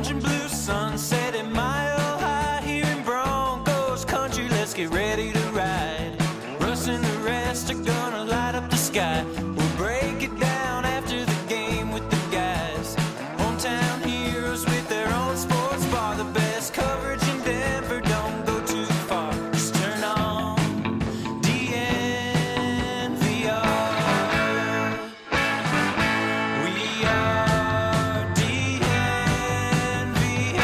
orange and blue sunset at Mile High here in Broncos country. Let's get ready to ride. Russ and the rest are gonna light up the sky. We'll break it down after the game with the guys. Hometown heroes with their own sports bar. The best coverage in Denver, don't go too far. Just turn on DNVR. We are DNVR.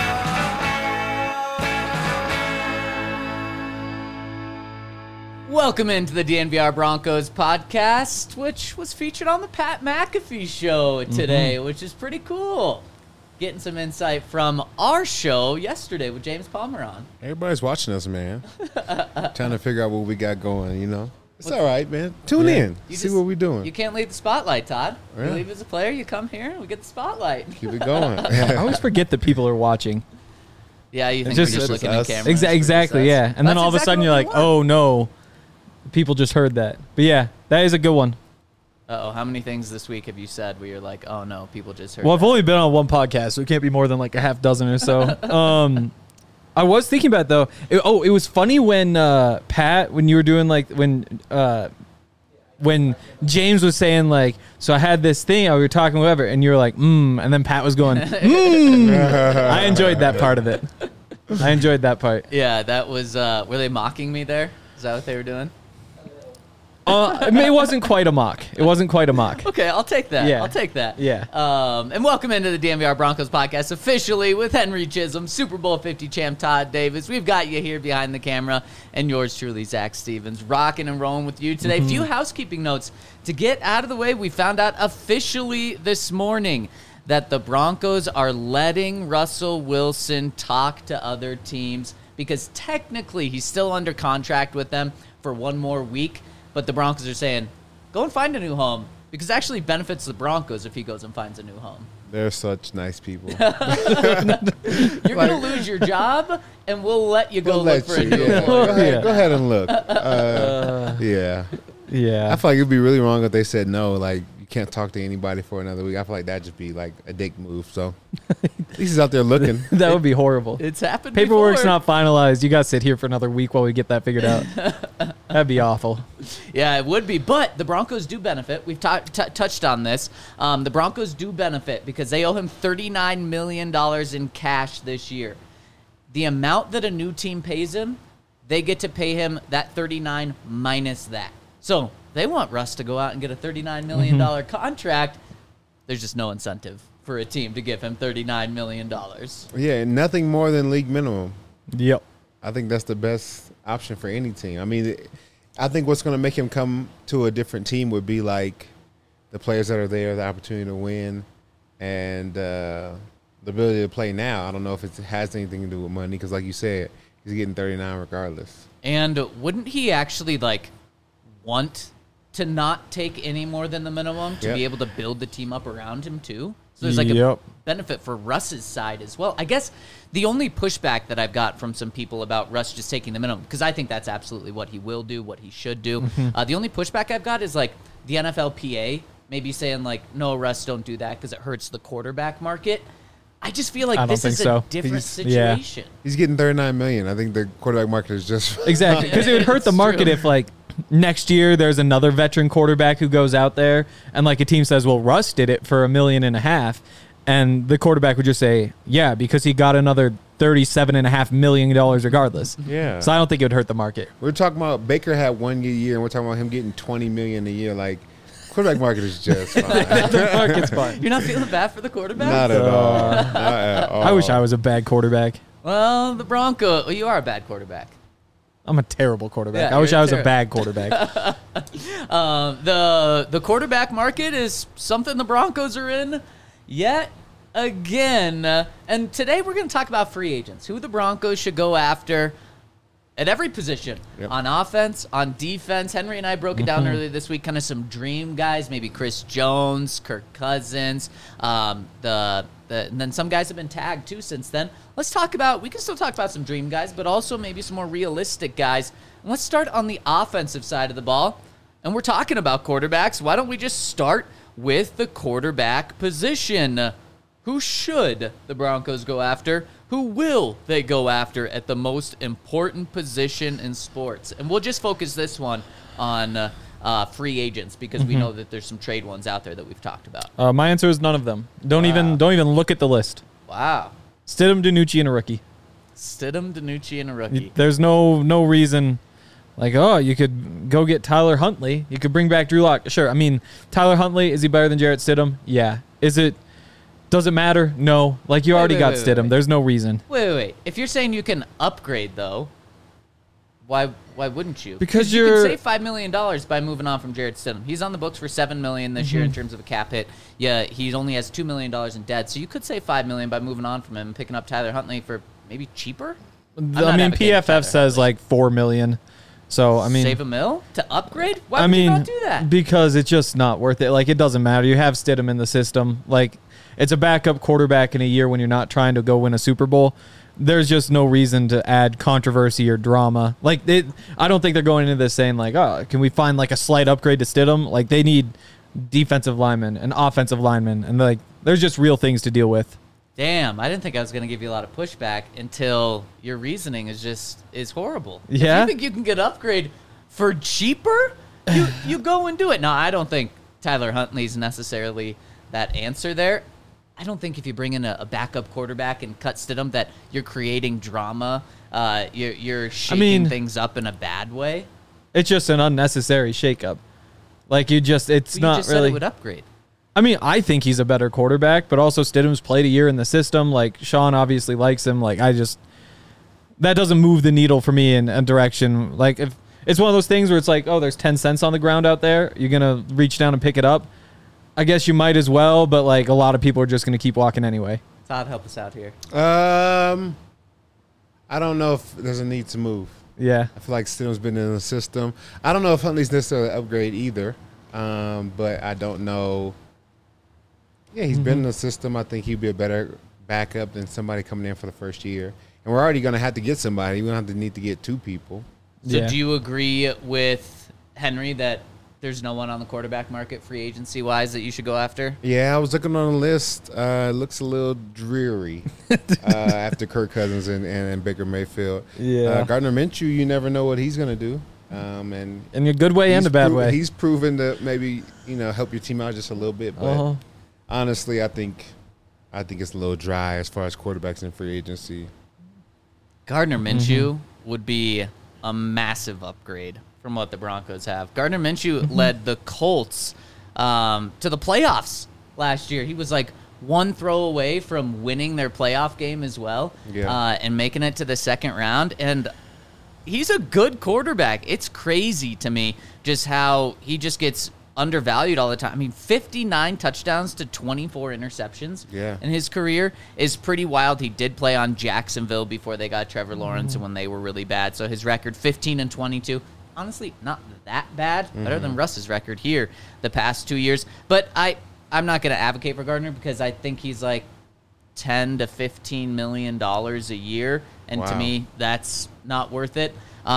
Welcome into the DNVR Broncos podcast, which was featured on the Pat McAfee show today, which is pretty cool. Getting some insight from our show yesterday with James Palmer on. Everybody's watching us, man. Trying to figure out what we got going, you know. It's all right, man. Tune in. See what we're doing. You can't leave the spotlight, Todd. Yeah. You leave as a player, you come here, we get the spotlight. Keep it going. I always forget that people are watching. Yeah, you think Just- we're just it's looking at us. camera. Exactly, yeah. And then all of a sudden you're like, oh no, people just heard that. But yeah, that is a good one. Uh-oh, how many things this week have you said where you're like, oh no, people just heard Well, I've that? only been on one podcast, so it can't be more than like a half dozen or so. I was thinking about it, though. It was funny when Pat, when you were doing like when James was saying like, so I had this thing, we were talking whatever, and you were like, and then Pat was going, I enjoyed that part of it. I enjoyed that part. Yeah, that was, were they mocking me there? Is that what they were doing? I mean, it wasn't quite a mock. It wasn't quite a mock. Okay, I'll take that. Yeah. I'll take that. Yeah. And welcome into the DNVR Broncos podcast officially with Henry Chisholm, Super Bowl 50 champ Todd Davis. We've got you here behind the camera, and yours truly, Zach Stevens, rocking and rolling with you today. Few housekeeping notes to get out of the way. We found out officially this morning that the Broncos are letting Russell Wilson talk to other teams because technically he's still under contract with them for one more week. But the Broncos are saying, go and find a new home because it actually benefits the Broncos if he goes and finds a new home. They're such nice people. You're going to lose your job, and we'll let you go look for a new employer. Go ahead and look. Yeah. Yeah. I feel like it'd be really wrong if they said no, like you can't talk to anybody for another week. I feel like that'd just be like a dick move. So at least he's out there looking. That would be horrible. It's happened Paperwork's before. not finalized. You got to sit here for another week while we get that figured out. That'd be awful. Yeah, it would be. But the Broncos do benefit. We've touched on this. The Broncos do benefit because they owe him $39 million in cash this year. The amount that a new team pays him, they get to pay him that $39 minus that. So they want Russ to go out and get a $39 million contract. There's just no incentive for a team to give him $39 million. Yeah, and nothing more than league minimum. Yep. I think that's the best option for any team. I mean, I think what's going to make him come to a different team would be like the players that are there, the opportunity to win, and the ability to play now. I don't know if it has anything to do with money because, like you said, he's getting 39 regardless. And wouldn't he actually, want to not take any more than the minimum to be able to build the team up around him, too? So there's, a benefit for Russ's side as well. I guess the only pushback that I've got from some people about Russ just taking the minimum, because I think that's absolutely what he will do, what he should do. The only pushback I've got is, the NFLPA maybe saying, no, Russ, don't do that because it hurts the quarterback market. I just feel like this is a different situation. He's getting $39 million. I think the quarterback market is just Exactly. Because it would hurt the market if, next year there's another veteran quarterback who goes out there and, a team says, well, Russ did it for $1.5 million. And the quarterback would just say, yeah, because he got another $37.5 million regardless. Yeah. So I don't think it would hurt the market. We're talking about Baker had 1 year, and we're talking about him getting $20 million a year. Quarterback market is just fine. The market's fine. You're not feeling bad for the quarterback? Not at all. Not at all. I wish I was a bad quarterback. Well, the Broncos, you are a bad quarterback. I'm a terrible quarterback. Yeah, I wish you're I was a bad quarterback. The quarterback market is something the Broncos are in yet again. And today we're going to talk about free agents, who the Broncos should go after at every position, on offense, on defense. Henry and I broke it down earlier this week, kind of some dream guys, maybe Chris Jones, Kirk Cousins, and then some guys have been tagged too since then. We can still talk about some dream guys, but also maybe some more realistic guys. And let's start on the offensive side of the ball. And we're talking about quarterbacks. Why don't we just start with the quarterback position? Who should the Broncos go after? Who will they go after at the most important position in sports? And we'll just focus this one on free agents because we know that there's some trade ones out there that we've talked about. My answer is none of them. Don't even look at the list. Wow. Stidham, DiNucci, and a rookie. Stidham, DiNucci, and a rookie. There's no reason. Like, oh, you could go get Tyler Huntley. You could bring back Drew Lock. Sure. I mean, Tyler Huntley, is he better than Jarrett Stidham? Yeah. Does it matter? No. Like, you already got Stidham. There's no reason. Wait. If you're saying you can upgrade, though, why wouldn't you? Because you can save $5 million by moving on from Jarrett Stidham. He's on the books for $7 million this year in terms of a cap hit. Yeah, he only has $2 million in debt, so you could save $5 million by moving on from him and picking up Tyler Huntley for maybe cheaper. I mean, PFF says like $4 million. So I mean, save a mil to upgrade. Why would you not do that? Because it's just not worth it. Like, it doesn't matter. You have Stidham in the system. Like, it's a backup quarterback in a year when you're not trying to go win a Super Bowl. There's just no reason to add controversy or drama. Like, I don't think they're going into this saying like, oh, can we find like a slight upgrade to Stidham? Like, they need defensive linemen and offensive linemen, and like, there's just real things to deal with. Damn, I didn't think I was going to give you a lot of pushback until your reasoning is horrible. Yeah? If you think you can get upgrade for cheaper, you go and do it. No, I don't think Tyler Huntley's necessarily that answer there. I don't think if you bring in a backup quarterback and cut Stidham that you're creating drama. You're shaking things up in a bad way. It's just an unnecessary shakeup. Like, you just not really. Said it would upgrade. I mean, I think he's a better quarterback, but also Stidham's played a year in the system. Like, Sean obviously likes him. Like, that doesn't move the needle for me in a direction. Like, if it's one of those things where it's like, oh, there's 10 cents on the ground out there, you're going to reach down and pick it up. I guess you might as well, but like, a lot of people are just going to keep walking anyway. Todd, help us out here. I don't know if there's a need to move. Yeah. I feel like Stidham's been in the system. I don't know if Huntley's necessarily an upgrade either, but I don't know. Yeah, he's been in the system. I think he'd be a better backup than somebody coming in for the first year. And we're already going to have to get somebody. We're going to need to get two people. So do you agree with Henry that there's no one on the quarterback market free agency-wise that you should go after? Yeah, I was looking on the list. It looks a little dreary after Kirk Cousins and Baker Mayfield. Yeah. Gardner Minshew, you never know what he's going to do. And in a good way and a bad way. He's proven to maybe, help your team out just a little bit. But honestly, I think it's a little dry as far as quarterbacks in free agency. Gardner Minshew would be a massive upgrade from what the Broncos have. Gardner Minshew led the Colts to the playoffs last year. He was like one throw away from winning their playoff game as well, and making it to the second round. And he's a good quarterback. It's crazy to me just how he just gets undervalued all the time. I mean, 59 touchdowns to 24 interceptions in his career is pretty wild. He did play on Jacksonville before they got Trevor Lawrence and when they were really bad. So his record, 15-22. Honestly, not that bad. Better than Russ's record here the past 2 years. But I'm not going to advocate for Gardner because I think he's like $10 to $15 million a year. And to me, that's not worth it.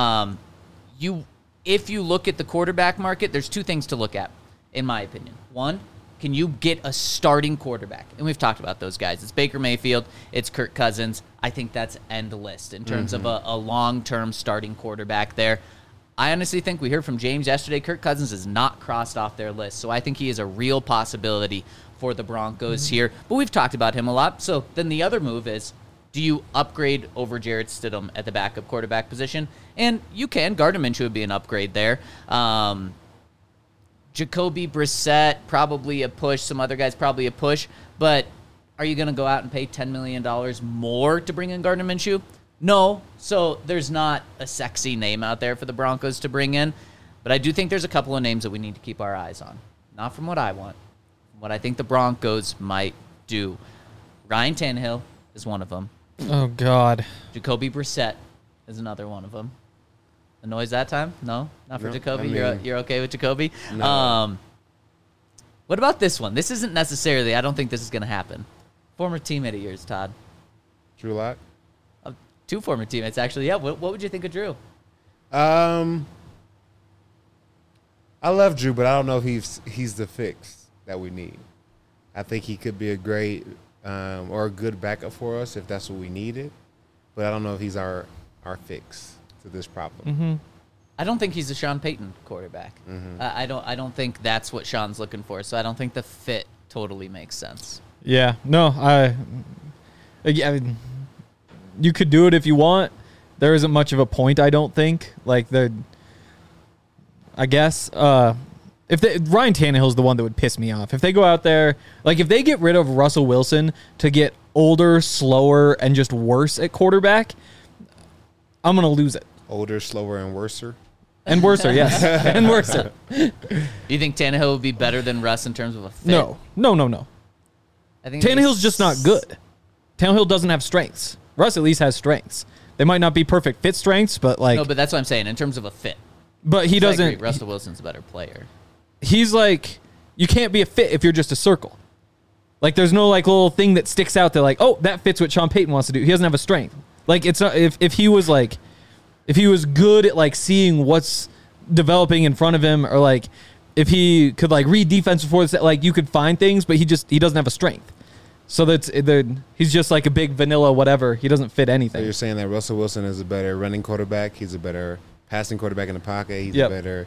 If you look at the quarterback market, there's two things to look at, in my opinion. One, can you get a starting quarterback? And we've talked about those guys. It's Baker Mayfield. It's Kirk Cousins. I think that's end list in terms of a long-term starting quarterback there. I honestly think we heard from James yesterday, Kirk Cousins is not crossed off their list. So I think he is a real possibility for the Broncos here. But we've talked about him a lot. So then the other move is, do you upgrade over Jarrett Stidham at the backup quarterback position? And you can. Gardner Minshew would be an upgrade there. Jacoby Brissett, probably a push. Some other guys, probably a push. But are you going to go out and pay $10 million more to bring in Gardner Minshew? No. So there's not a sexy name out there for the Broncos to bring in. But I do think there's a couple of names that we need to keep our eyes on. Not from what I want. From what I think the Broncos might do. Ryan Tannehill is one of them. Oh, God. Jacoby Brissett is another one of them. The noise that time? No? Not for Jacoby? You're okay with Jacoby? No. What about this one? This isn't necessarily, I don't think this is going to happen. Former teammate of yours, Todd. Drew Lock? Two former teammates, actually. Yeah, what would you think of Drew? I love Drew, but I don't know if he's the fix that we need. I think he could be a great or a good backup for us if that's what we needed. But I don't know if he's our fix to this problem. I don't think he's a Sean Payton quarterback. I don't think that's what Sean's looking for. So I don't think the fit totally makes sense. Yeah, no, I mean, you could do it if you want. There isn't much of a point, I don't think. Like I guess Ryan Tannehill's the one that would piss me off. If they go out there, like if they get rid of Russell Wilson to get older, slower, and just worse at quarterback, I'm gonna lose it. Older, slower, and worser. And worser, yes, and worser. You think Tannehill would be better than Russ in terms of a fit? No. I think Tannehill's just not good. Tannehill doesn't have strengths. Russ at least has strengths. They might not be perfect fit strengths, but like. No, but that's what I'm saying in terms of a fit. But he doesn't. I agree. Russell Wilson's a better player. He's like, you can't be a fit if you're just a circle. Like there's no like little thing that sticks out there like, oh, that fits what Sean Payton wants to do. He doesn't have a strength. Like it's not if he was good at like seeing what's developing in front of him, or like if he could like read defense before the like you could find things, but he doesn't have a strength. So he's just like a big vanilla whatever. He doesn't fit anything. So you're saying that Russell Wilson is a better running quarterback. He's a better passing quarterback in the pocket. He's a better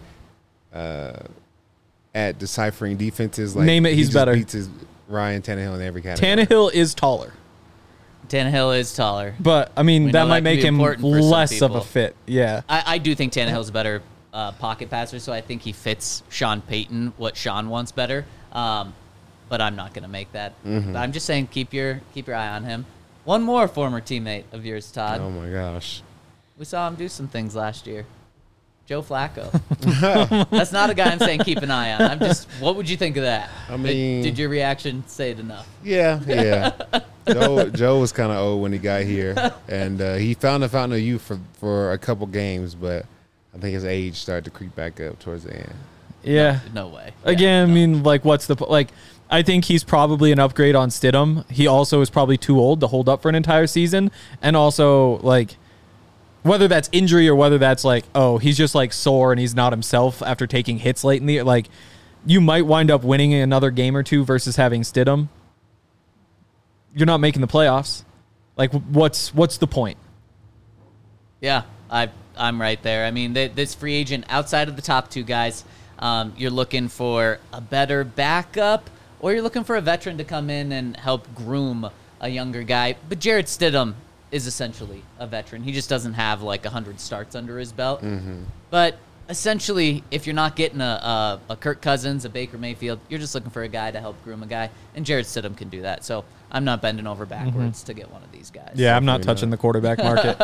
at deciphering defenses. Like name it, he's better. Beats Ryan Tannehill in every category. Tannehill is taller. Tannehill is taller. But, I mean, that might make him less of a people. fit. Yeah. I do think Tannehill's a better pocket passer, so I think he fits Sean Payton, what Sean wants better. But I'm not going to make that. I'm just saying keep your eye on him. One more former teammate of yours, Todd. Oh, my gosh. We saw him do some things last year. Joe Flacco. That's not a guy I'm saying keep an eye on. What would you think of that? I mean, did your reaction say it enough? Yeah. Joe was kind of old when he got here, and he found the fountain of youth for a couple games, but I think his age started to creep back up towards the end. Yeah. No way. Again, I mean, like, I think he's probably an upgrade on Stidham. He also is probably too old to hold up for an entire season, and also, like, whether that's injury or whether that's like, oh, he's just like sore and he's not himself after taking hits late in the year. Like, you might wind up winning another game or two versus having Stidham. You're not making the playoffs. Like, what's the point? Yeah, I'm right there. I mean, this free agent outside of the top two guys, you're looking for a better backup, or you're looking for a veteran to come in and help groom a younger guy. But Jarrett Stidham is essentially a veteran. He just doesn't have like 100 starts under his belt. But essentially, if you're not getting a Kirk Cousins, a Baker Mayfield, you're just looking for a guy to help groom a guy, and Jarrett Stidham can do that. So I'm not bending over backwards to get one of these guys. Yeah, I'm not touching the quarterback market.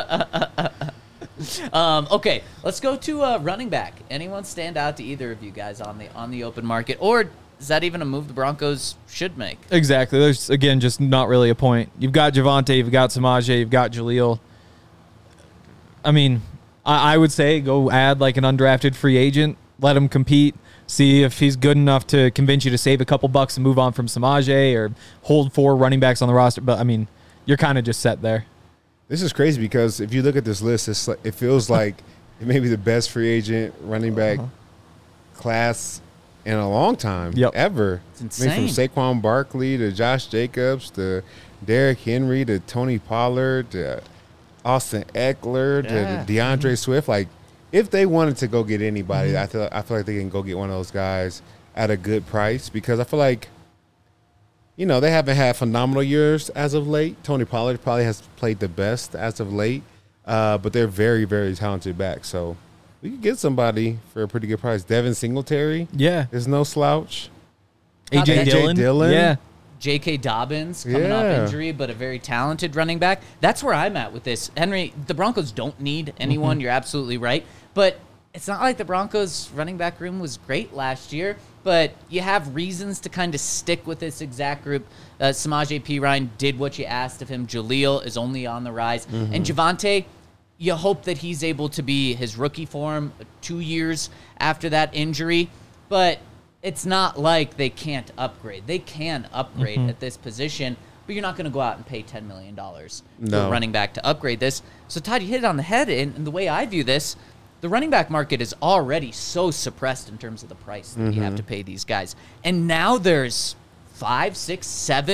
Okay, let's go to running back. Anyone stand out to either of you guys on the open market, or is that even a move the Broncos should make? Exactly. There's, again, just not really a point. You've got Javonte, you've got Samaje, you've got Jaleel. I mean, I would say go add like an undrafted free agent, let him compete, see if he's good enough to convince you to save a couple bucks and move on from Samaje, or hold 4 running backs on the roster. But, I mean, you're kind of just set there. This is crazy because if you look at this list, it feels like it may be the best free agent running back class in a long time, ever. It's insane. I mean, from Saquon Barkley to Josh Jacobs to Derrick Henry to Tony Pollard to Austin Eckler to DeAndre Swift. Like, if they wanted to go get anybody, I feel like they can go get one of those guys at a good price, because I feel like, you know, they haven't had phenomenal years as of late. Tony Pollard probably has played the best as of late, but they're very, very talented back. So we could get somebody for a pretty good price. Devin Singletary, is no slouch. AJ Dillon, yeah. J.K. Dobbins coming off injury, but a very talented running back. That's where I'm at with this. Henry, the Broncos don't need anyone. You're absolutely right. But it's not like the Broncos' running back room was great last year, but you have reasons to kind of stick with this exact group. Samaje Perine did what you asked of him. Jaleel is only on the rise. And Javonte, you hope that he's able to be his rookie form 2 years after that injury. But it's not like they can't upgrade. They can upgrade at this position, but you're not going to go out and pay $10 million to a running back to upgrade this. So, Todd, you hit it on the head, and the way I view this, the running back market is already so suppressed in terms of the price that you have to pay these guys. And now there's 5, 6, 7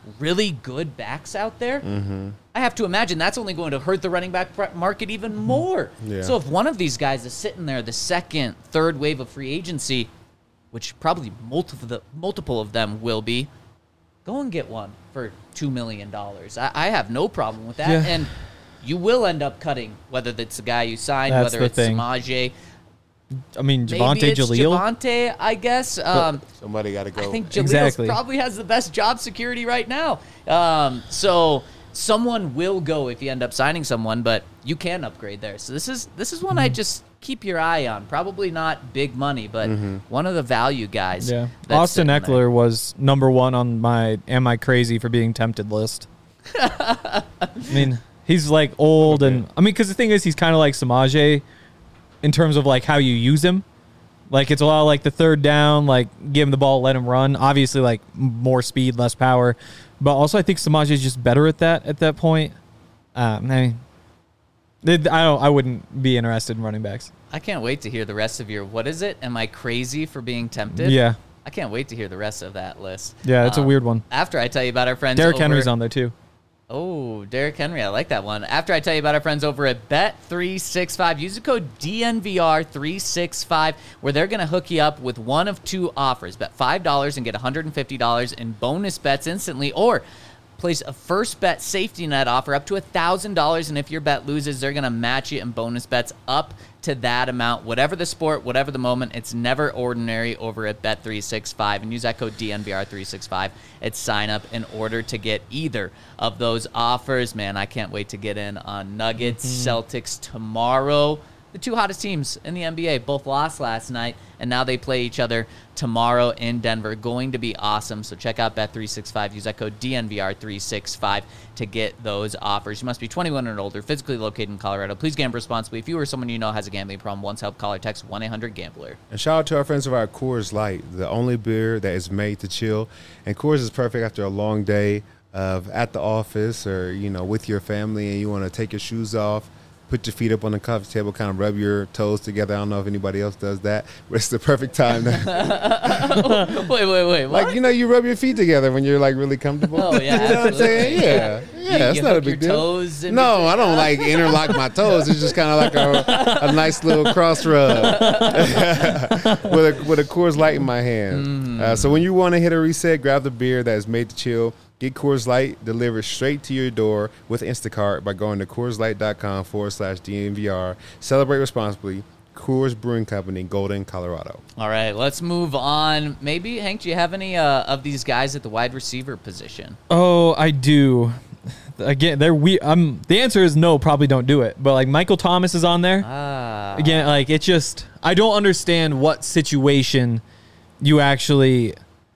really good backs out there, I have to imagine that's only going to hurt the running back market even more. Yeah. So if one of these guys is sitting there, the second, third wave of free agency, which probably multiple of them will be, go and get one for $2 million. I have no problem with that. Yeah. And you will end up cutting, whether it's the guy you signed, That's whether the it's thing. Samaje. I mean, Maybe Javonte it's Jaleel. Javonte, I guess. Somebody got to go. I think Jaleel Exactly. probably has the best job security right now. So someone will go if you end up signing someone, but you can upgrade there. So this is one I just keep your eye on. Probably not big money, but one of the value guys. Yeah. that's Austin sitting Eckler there. was number 1 on my "Am I Crazy for Being Tempted" list. I mean, he's like old, and I mean, because the thing is, he's kind of like Samaje in terms of like how you use him. Like it's a lot of like the third down, like give him the ball, let him run. Obviously, like more speed, less power, but also I think Samaje is just better at that point. I mean, I wouldn't be interested in running backs. I can't wait to hear the rest of your. What is it? Am I crazy for being tempted? Yeah, I can't wait to hear the rest of that list. yeah, it's a weird one. After I tell you about our friends, Derrick over, Henry's on there too. Oh, Derrick Henry. I like that one. After I tell you about our friends over at Bet365, use the code DNVR365, where they're going to hook you up with one of 2 offers. Bet $5 and get $150 in bonus bets instantly, or place a first bet safety net offer up to $1,000, and if your bet loses, they're going to match you in bonus bets up to that amount. Whatever the sport, whatever the moment, it's never ordinary over at Bet365, and use that code DNVR365 at sign up in order to get either of those offers. Man, I can't wait to get in on Nuggets, Celtics tomorrow. The 2 hottest teams in the NBA both lost last night, and now they play each other tomorrow in Denver. Going to be awesome. So check out Bet365. Use that code DNVR365 to get those offers. You must be 21 and older, physically located in Colorado. Please gamble responsibly. If you or someone you know has a gambling problem, once help, call or text 1-800-GAMBLER. And shout out to our friends of our Coors Light, the only beer that is made to chill. And Coors is perfect after a long day of at the office or, with your family, and you want to take your shoes off, put your feet up on the coffee table, kind of rub your toes together. I don't know if anybody else does that, but it's the perfect time. Wait. What? Like, you rub your feet together when you're, like, really comfortable. Oh, yeah, You know what I'm saying? absolutely. Yeah. Yeah, it's you not a hook big your deal. toes in No, between- I don't, like, interlock my toes. It's just kind of like a nice little cross rub with a Coors Light in my hand. So when you want to hit a reset, grab the beer that is made to chill. Get Coors Light delivered straight to your door with Instacart by going to CoorsLight.com/DNVR. Celebrate responsibly. Coors Brewing Company, Golden, Colorado. All right, let's move on. Maybe, Hank, do you have any of these guys at the wide receiver position? Oh, I do. Again, the answer is no, probably don't do it. But like Michael Thomas is on there. Again, like it's just I don't understand what situation you actually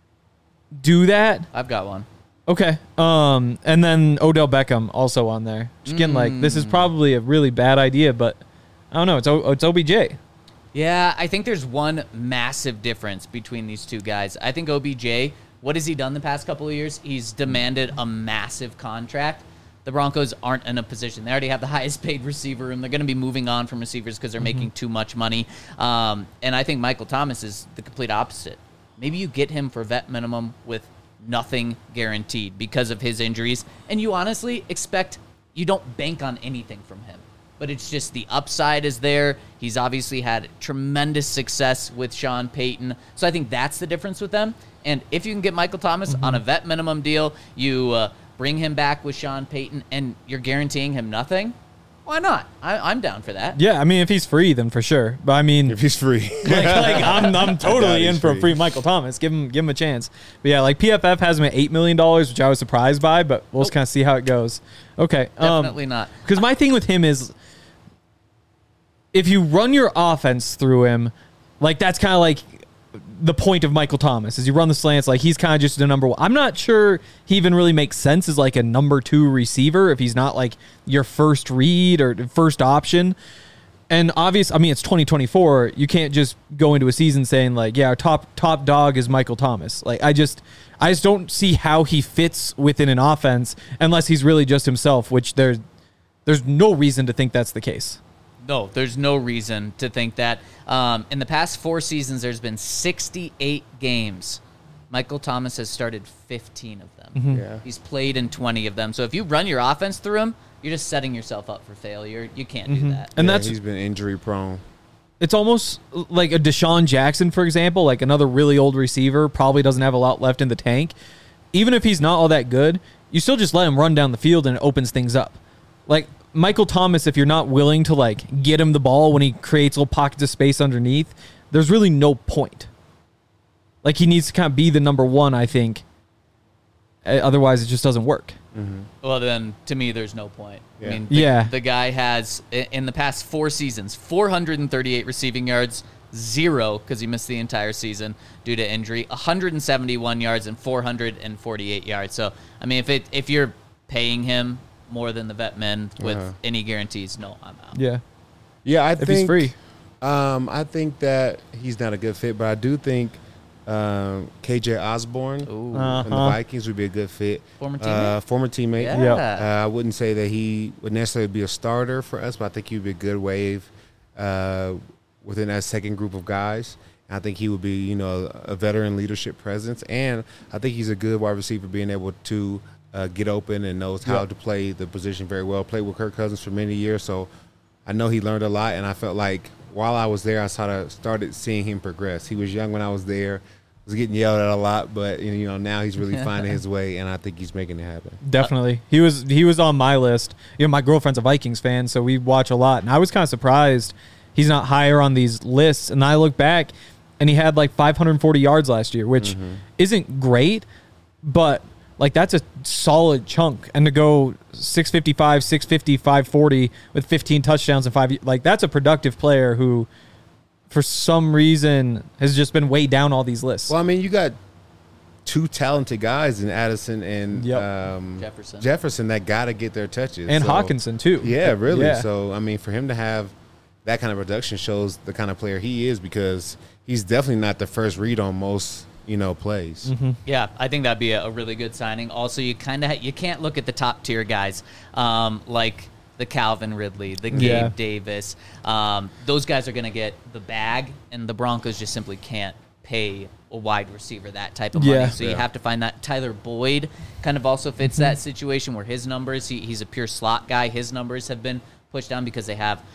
do that. I've got one. Okay. And then Odell Beckham also on there. Just again, like this is probably a really bad idea, but I don't know. It's OBJ. Yeah, I think there's one massive difference between these two guys. I think OBJ, what has he done the past couple of years? He's demanded a massive contract. The Broncos aren't in a position. They already have the highest paid receiver room. They're going to be moving on from receivers because they're making too much money. And I think Michael Thomas is the complete opposite. Maybe you get him for vet minimum with nothing guaranteed because of his injuries. And you honestly you don't bank on anything from him. But it's just the upside is there. He's obviously had tremendous success with Sean Payton. So I think that's the difference with them. And if you can get Michael Thomas on a vet minimum deal, you bring him back with Sean Payton, and you're guaranteeing him nothing, why not? I'm down for that. Yeah, I mean if he's free, then for sure. But I mean, If he's free. I'm totally in he's for a free. free Michael Thomas. Give him a chance. But yeah, like PFF has him at $8 million, which I was surprised by, but we'll just kind of see how it goes. Okay, Definitely not. Because my thing with him is, if you run your offense through him, like that's kind of like the point of Michael Thomas is you run the slants, like he's kind of just a number one. I'm not sure he even really makes sense as like a number 2 receiver if he's not like your first read or first option. And obviously, I mean, it's 2024. You can't just go into a season saying like, yeah, our top dog is Michael Thomas. Like I just don't see how he fits within an offense unless he's really just himself, which there's no reason to think that's the case. No, there's no reason to think that. In the past 4 seasons, there's been 68 games Michael Thomas has started 15 of them. Mm-hmm. Yeah. He's played in 20 of them. So if you run your offense through him, you're just setting yourself up for failure. You can't do that. And Yeah, that's he's been injury prone. it's almost like a Deshaun Jackson, for example, like another really old receiver, probably doesn't have a lot left in the tank. Even if he's not all that good, you still just let him run down the field and it opens things up. Like Michael Thomas, if you're not willing to like get him the ball when he creates little pockets of space underneath, there's really no point. Like he needs to kind of be the number one, I think. Otherwise, it just doesn't work. Well, then, to me, there's no point. Yeah. I mean, Yeah. the guy has, in the past 4 seasons, 438 receiving yards, 0 because he missed the entire season due to injury, 171 yards and 448 yards. So, I mean, if you're paying him more than the vet men with any guarantees, no, I'm out. Yeah. Yeah, I If think he's free. I think that he's not a good fit, but I do think KJ Osborne Ooh. and the Vikings would be a good fit. Former teammate? Former teammate. Yeah. Yep. I wouldn't say that he would necessarily be a starter for us, but I think he would be a good wave within that second group of guys. And I think he would be, a veteran leadership presence, and I think he's a good wide receiver, being able to get open and knows how to play the position very well. Played with Kirk Cousins for many years, so I know he learned a lot, and I felt like while I was there, I started seeing him progress. He was young when I was there, was getting yelled at a lot, but now he's really finding his way, and I think he's making it happen. Definitely. He was on my list. My girlfriend's a Vikings fan, so we watch a lot. And I was kind of surprised he's not higher on these lists. And I look back, and he had like 540 yards last year, which isn't great, but like that's a solid chunk. And to go 655, 650, 540 with 15 touchdowns and 5, like that's a productive player who for some reason has just been way down all these lists. Well, I mean, you got two talented guys in Addison and Jefferson that got to get their touches. And So, Hawkinson too. Yeah, really. Yeah. So, I mean, for him to have that kind of production shows the kind of player he is, because he's definitely not the first read on most, plays. Yeah, I think that'd be a really good signing. Also, you kind of you can't look at the top tier guys like the Calvin Ridley, the Gabe Davis. Those guys are going to get the bag, and the Broncos just simply can't pay a wide receiver that type of money. So you have to find that. Tyler Boyd kind of also fits that situation where his numbers, he's a pure slot guy. His numbers have been pushed down because they have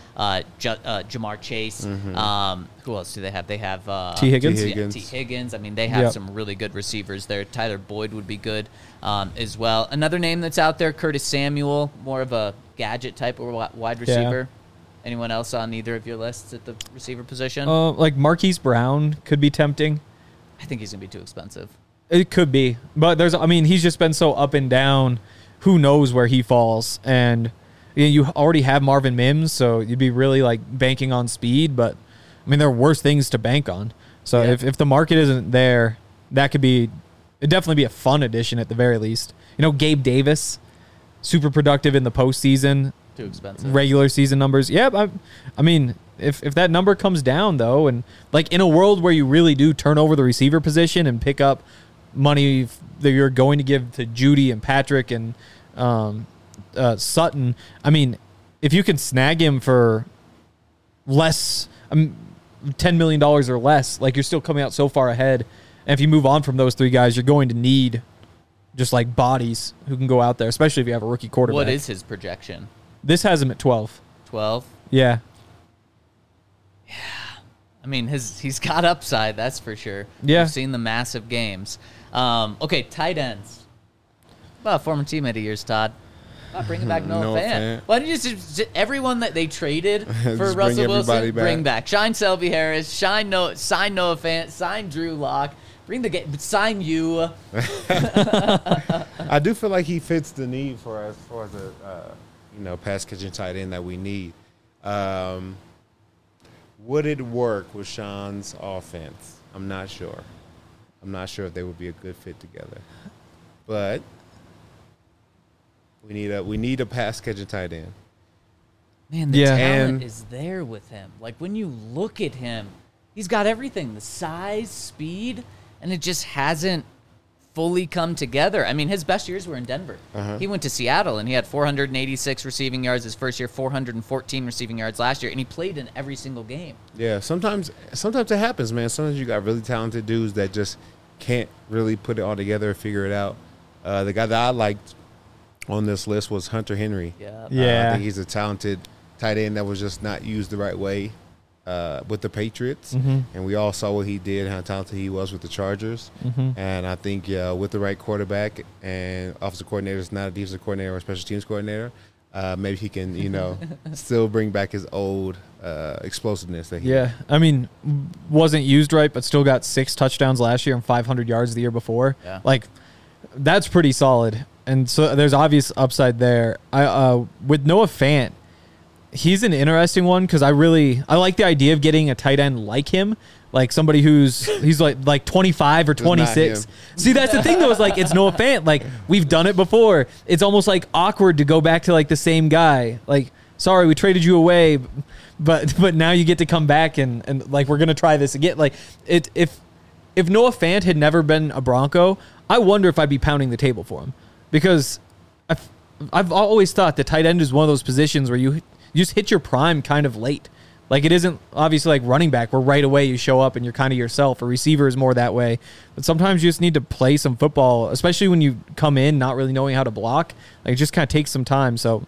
Jamar Chase. Who else do they have? They have T. Higgins. T. Higgins. I mean, they have some really good receivers there. Tyler Boyd would be good as well. Another name that's out there, Curtis Samuel, more of a gadget type of wide receiver. Anyone else on either of your lists at the receiver position? Like Marquise Brown could be tempting. I think he's going to be too expensive. It could be. But he's just been so up and down. Who knows where he falls? And you already have Marvin Mims, so you'd be really like banking on speed. But I mean, there are worse things to bank on. So if the market isn't there, it'd definitely be a fun addition at the very least. Gabe Davis, super productive in the postseason. Too expensive. Regular season numbers. Yeah, I mean, if that number comes down though, and like in a world where you really do turn over the receiver position and pick up money that you're going to give to Judy and Patrick and Sutton, I mean, if you can snag him for less, $10 million or less, like you're still coming out so far ahead. And if you move on from those three guys, you're going to need just like bodies who can go out there, especially if you have a rookie quarterback. What is his projection? This has him at 12. 12? Yeah. I mean, he's got upside, that's for sure. Yeah. We've seen the massive games. Okay, tight ends. Well, a former teammate of yours, Todd. Bringing back Noah Noah Fant. Fant. Why don't you just everyone that they traded for Just bring Russell Wilson, everybody back. bring back. Shine Selby Harris, sign Noah Fant, sign Drew Lock, sign you. I do feel like he fits the need for us for the pass catching tight end that we need. Would it work with Sean's offense? I'm not sure. I'm not sure if they would be a good fit together. But we need a pass catching tight end. Man, the talent And- is there with him. Like, when you look at him, he's got everything. The size, speed, and it just hasn't fully come together. I mean, his best years were in Denver. He went to Seattle, and he had 486 receiving yards his first year, 414 receiving yards last year, and he played in every single game. Yeah, sometimes it happens, man. Sometimes you got really talented dudes that just can't really put it all together or figure it out. The guy that I liked on this list was Hunter Henry. Yeah. I think he's a talented tight end that was just not used the right way with the Patriots. And we all saw what he did, how talented he was with the Chargers. And I think with the right quarterback and offensive coordinator, is not a defensive coordinator or a special teams coordinator, maybe he can, still bring back his old explosiveness that he had. I mean, wasn't used right, but still got 6 touchdowns last year and 500 yards the year before. Yeah. Like, that's pretty solid. And so there's obvious upside there. With Noah Fant, he's an interesting one because I like the idea of getting a tight end like him, like somebody he's like 25 or 26. See, that's the thing though, is like it's Noah Fant. Like we've done it before. It's almost like awkward to go back to like the same guy. Like, sorry, we traded you away, but now you get to come back and like we're gonna try this again. Like if Noah Fant had never been a Bronco, I wonder if I'd be pounding the table for him because I've always thought the tight end is one of those positions where you just hit your prime kind of late. Like it isn't obviously like running back where right away you show up and you're kind of yourself. A receiver is more that way. But sometimes you just need to play some football, especially when you come in not really knowing how to block. Like it just kind of takes some time. So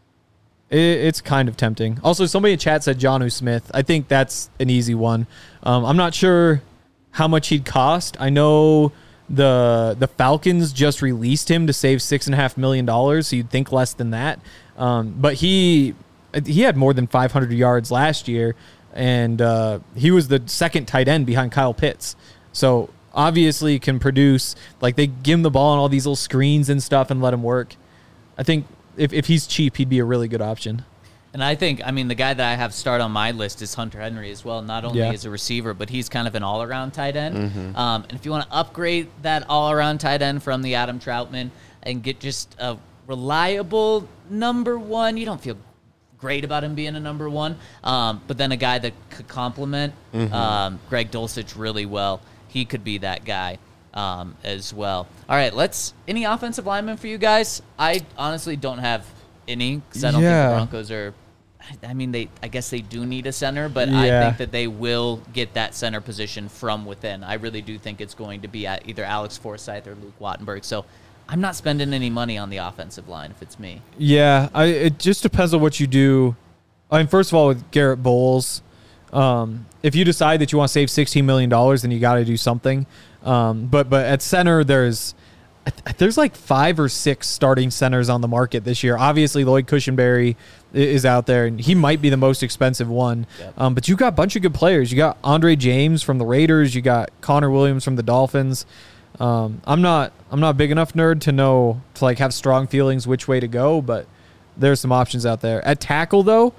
it's kind of tempting. Also, somebody in chat said Jonnu Smith. I think that's an easy one. I'm not sure how much he'd cost. I know the Falcons just released him to save $6.5 million, so you'd think less than that. But he had more than 500 yards last year, and he was the second tight end behind Kyle Pitts. So obviously can produce. Like they give him the ball on all these little screens and stuff and let him work. I think if he's cheap, he'd be a really good option. And I think, the guy that I have start on my list is Hunter Henry as well, not only as a receiver, but he's kind of an all-around tight end. And if you want to upgrade that all-around tight end from the Adam Troutman and get just a reliable number one, you don't feel great about him being a number one, but then a guy that could complement Greg Dulcich really well, he could be that guy as well. All right, any offensive linemen for you guys? I honestly don't have any because I don't think the Broncos are. I guess they do need a center, but I think that they will get that center position from within. I really do think it's going to be at either Alex Forsythe or Luke Wattenberg. So I'm not spending any money on the offensive line if it's me. Yeah, it just depends on what you do. First of all, with Garrett Bowles, if you decide that you want to save $16 million, then you got to do something. But at center, there's like 5 or 6 starting centers on the market this year. Obviously, Lloyd Cushenberry is out there, and he might be the most expensive one. Yep. But you got a bunch of good players. You got Andre James from the Raiders. You got Connor Williams from the Dolphins. I'm not a big enough nerd to like have strong feelings which way to go, but there's some options out there. At tackle though,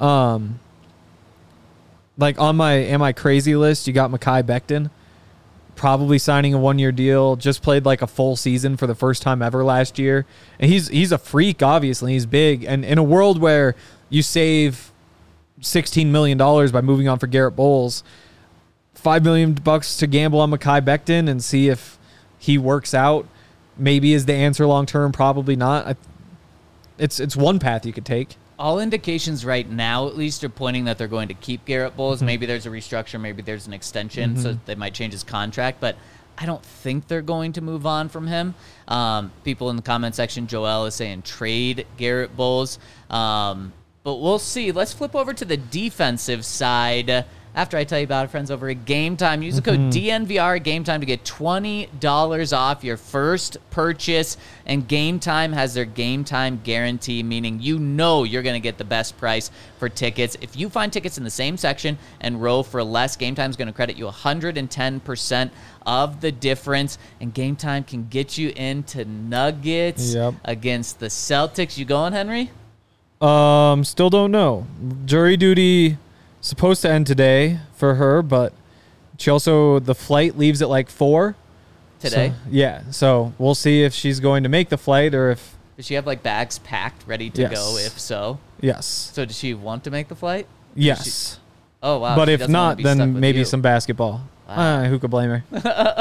like on my am I crazy list, you got Mekhi Becton, probably signing a 1-year deal. Just played like a full season for the first time ever last year, and he's a freak. Obviously, he's big, and in a world where you save $16 million by moving on for Garrett Bowles, $5 million to gamble on Mekhi Becton and see if he works out. Maybe is the answer long term. Probably not. It's one path you could take. All indications right now, at least, are pointing that they're going to keep Garrett Bowles. Maybe there's a restructure. Maybe there's an extension, so they might change his contract. But I don't think they're going to move on from him. People in the comment section, Joel is saying trade Garrett Bowles. But we'll see. Let's flip over to the defensive side. After I tell you about our friends over at Game Time, use the code DNVR at Game Time to get $20 off your first purchase. And Game Time has their Game Time guarantee, meaning you're going to get the best price for tickets. If you find tickets in the same section and row for less, Game Time is going to credit you 110% of the difference. And Game Time can get you into Nuggets against the Celtics. You going, Henry? Still don't know. Jury duty supposed to end today for her, but the flight leaves at like 4 today. So we'll see if she's going to make the flight or if. Does she have like bags packed, ready to go? If so, yes. So does she want to make the flight? Yes. Oh wow. But if not, then maybe some basketball. Who could blame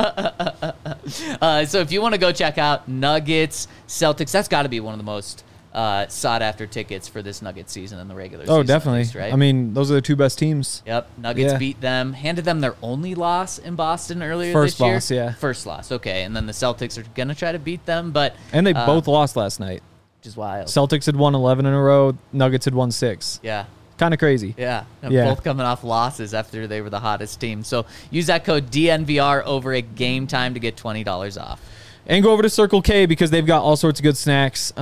her? So if you want to go check out Nuggets, Celtics, that's got to be one of the most sought after tickets for this Nuggets season in the regular Oh, season. definitely. At least, right? I mean, those are the two best teams. Yep. Nuggets Yeah. beat them, handed them their only loss in Boston earlier First this year. loss, yeah. First loss, okay. And then the Celtics are going to try to beat them, but And they both lost last night. which is wild. Celtics had won 11 in a row. Nuggets had won 6. Yeah. Kind of crazy. Yeah. And Yeah. both coming off losses after they were the hottest team. So use that code DNVR over at Game Time to get $20 off. And go over to Circle K because they've got all sorts of good snacks.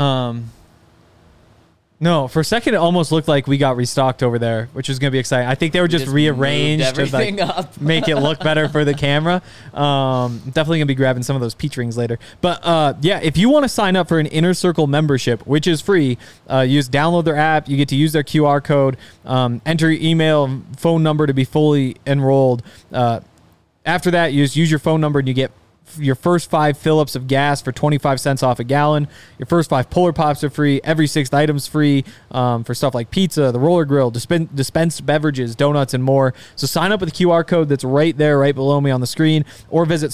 No, for a second it almost looked like we got restocked over there, which is going to be exciting. I think they were just Just rearranged moved to everything like up. make it look better for the camera. Definitely going to be grabbing some of those peach rings later. But yeah, if you want to sign up for an Inner Circle membership, which is free, download their app. You get to use their QR code, enter your email and phone number to be fully enrolled. After that, you just use your phone number and you get your first 5 fill-ups of gas for 25 cents off a gallon. Your first 5 Polar Pops are free. Every 6th item's free for stuff like pizza, the roller grill, dispensed beverages, donuts, and more. So sign up with the QR code that's right there, right below me on the screen, or visit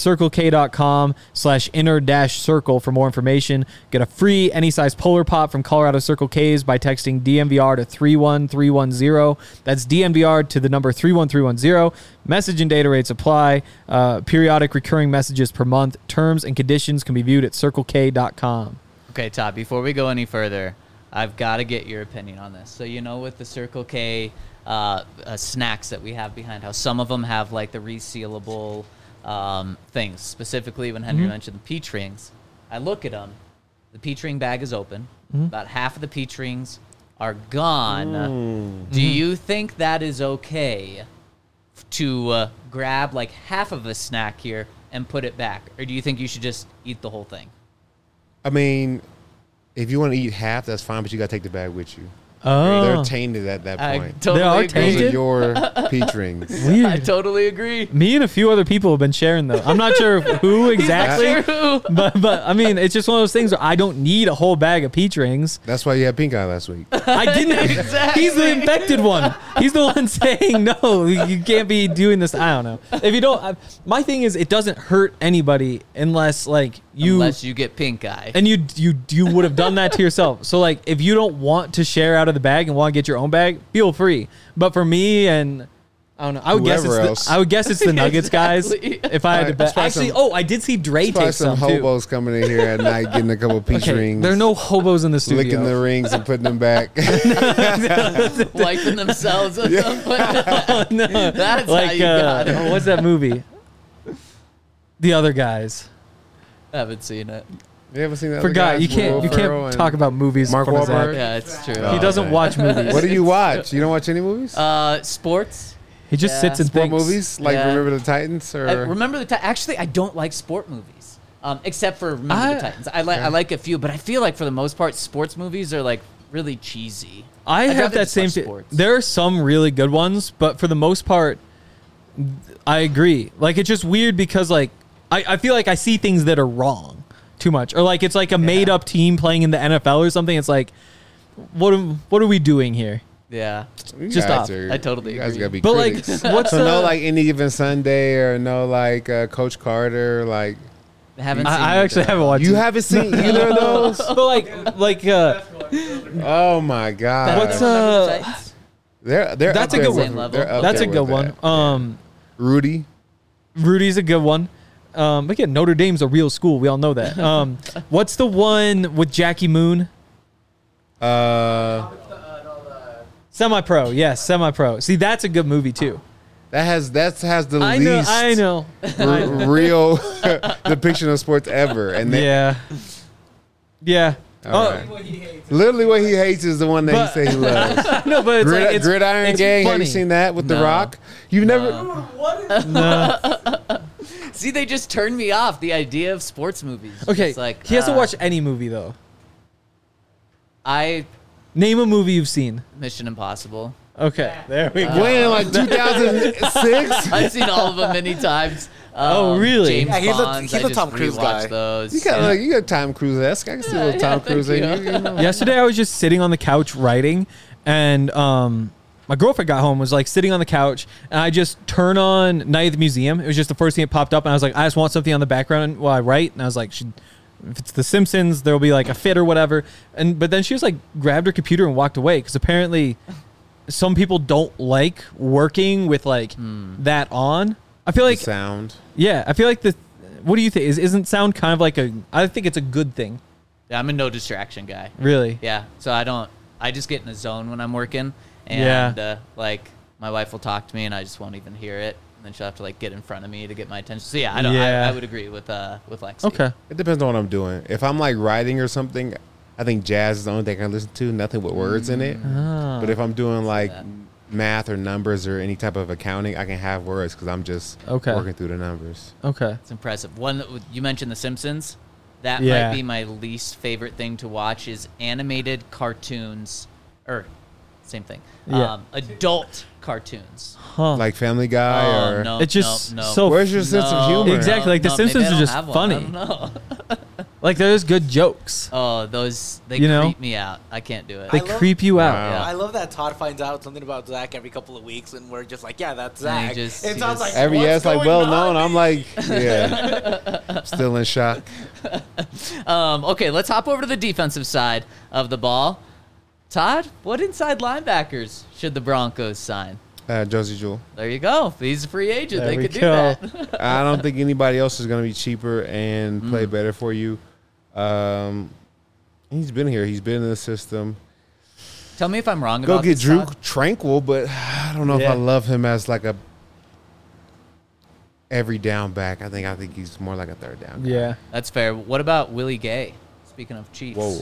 circlek.com/inner-circle for more information. Get a free any size Polar Pop from Colorado Circle K's by texting DMVR to 31310. That's DMVR to the number 31310. Message and data rates apply. Periodic recurring messages per month. Terms and conditions can be viewed at circlek.com. Okay, Todd, before we go any further, I've got to get your opinion on this. So, with the Circle K snacks that we have behind house, some of them have like the resealable things. Specifically, when Henry mentioned the peach rings, I look at them. The peach ring bag is open. About half of the peach rings are gone. Do you think that is okay to grab like half of a snack here and put it back? Or do you think you should just eat the whole thing? I mean, if you want to eat half, that's fine, but you got to take the bag with you. Oh, They're tainted at that I point. totally They are agree. Those are tainted? your peach rings. weird. I totally agree. Me and a few other people have been sharing though. I'm not sure who exactly, True. but I mean, it's just one of those things where I don't need a whole bag of peach rings. That's why you had pink eye last week. I didn't. Exactly. He's the infected one. He's the one saying no. You can't be doing this. I don't know. If you don't, my thing is, it doesn't hurt anybody unless like Unless you get pink eye. and you would have done that to yourself. So like, if you don't want to share out of the bag and want to get your own bag, feel free. But for me and I don't know. I would Whoever else. guess it's the Nuggets guys. Exactly. If I had to That's bet. probably Actually, some- I did see Dre Probably take some some too. hobos coming in here at night getting a couple peach Okay, rings. there are no hobos in the studio. licking the rings and putting them back. Wiping themselves. With them. Oh, no. That's like how you got it. what's that movie? The Other Guys. I haven't seen it. You ever seen that? other Forgot guys you with can't Will you Ferrell can't and talk about movies. Mark in front of Zach. Wahlberg? Yeah, it's true. Oh, He doesn't man. watch movies. What do you watch? You don't watch any movies? Sports. He just Yeah. sits and Sport thinks. movies like Yeah. Remember the Titans or Remember the Actually, I don't like sport movies, except for Remember I- the Titans. I like a few, but I feel like for the most part, sports movies are like really cheesy. I I'd have rather that just same. watch sports. There are some really good ones, but for the most part, I agree. Like it's just weird because like I feel like I see things that are wrong too much, or like it's like a made up team playing in the NFL or something. It's like, what are we doing here? Yeah, You just guys off. are- I totally you guys agree. gotta be But critics. like, what's so no the? like Any Given Sunday or no like Coach Carter like I haven't. seen I either actually of haven't them. watched. you it. haven't seen either of those? But like Oh my god! What's, Remember the Titans? They're That's up a there good with- one. they're up that's a there good with one. that. Rudy. Rudy's a good one. Again, Notre Dame's a real school. We all know that. What's the one with Jackie Moon? Semi-Pro. Yes, Semi-Pro. See, that's a good movie too. That has the I know. least I know. real depiction of sports ever, and they, Yeah. Yeah. All right. literally what he hates is the one that But- he say he loves. No, but it's like it's, Gridiron it's Gang. Have funny. you seen that with The No. Rock? You've never. No. See, they just turned me off. The idea of sports movies. Okay. It's like He hasn't watched any movie though. Name a movie you've seen. Mission Impossible. Okay. There we go. When like 2006? I've seen all of them many times. Oh, really? James Yeah, he's a- Bonds, he's I a Tom just Cruise rewatched guy. Those. You got like you got Tom Cruise-esque. I can see a little Tom thank Cruise in you. you. know? Yesterday I was just sitting on the couch writing, and my girlfriend got home, was like sitting on the couch, and I just turn on Night at the Museum. It was just the first thing that popped up, and I was like, I just want something on the background while I write, and I was like, if it's The Simpsons, there'll be like a fit or whatever. But then she just like grabbed her computer and walked away because apparently some people don't like working with like that on. I feel like sound. Yeah, I feel like what do you think? Isn't sound kind of like I think it's a good thing. Yeah, I'm a no distraction guy. Really? Yeah. So I just get in a zone when I'm working, and like my wife will talk to me, and I just won't even hear it. And then she'll have to like get in front of me to get my attention. So yeah, I would agree with Lexi. Okay. It depends on what I'm doing. If I'm like writing or something, I think jazz is the only thing I can listen to. Nothing with words in it. But if I'm doing like math or numbers or any type of accounting, I can have words because I'm just working through the numbers. Okay. It's impressive. One you mentioned The Simpsons. That Yeah. might be my least favorite thing to watch is animated cartoons, or same thing. Yeah. Adult cartoons. Huh. Like Family Guy Oh or no, It's just no. so where's your sense of humor? Exactly, like The maybe Simpsons I are don't just have one. funny. I don't know. Like there's good jokes. Oh, those they You know? creep me out. I can't do it. They I love- creep you out. Wow. Yeah. I love that Todd finds out something about Zach every couple of weeks, and we're just like, yeah, that's And Zach. he just- It he sounds just- like Every what's it's like going well on, known. I'm baby? like, yeah, still in shock. Okay, let's hop over to the defensive side of the ball. Todd, what inside linebackers should the Broncos sign? Josie Jewell. There you go. He's a free agent. There They we could do go. that. I don't think anybody else is going to be cheaper and play better for you. He's been here. He's been in the system. Tell me if I'm wrong Go about get this, Drew Todd. Tranquil, but I don't know if Yeah. I love him as like a every down back. I think he's more like a third down guy. Yeah. That's fair. What about Willie Gay? Speaking of Chiefs. Whoa.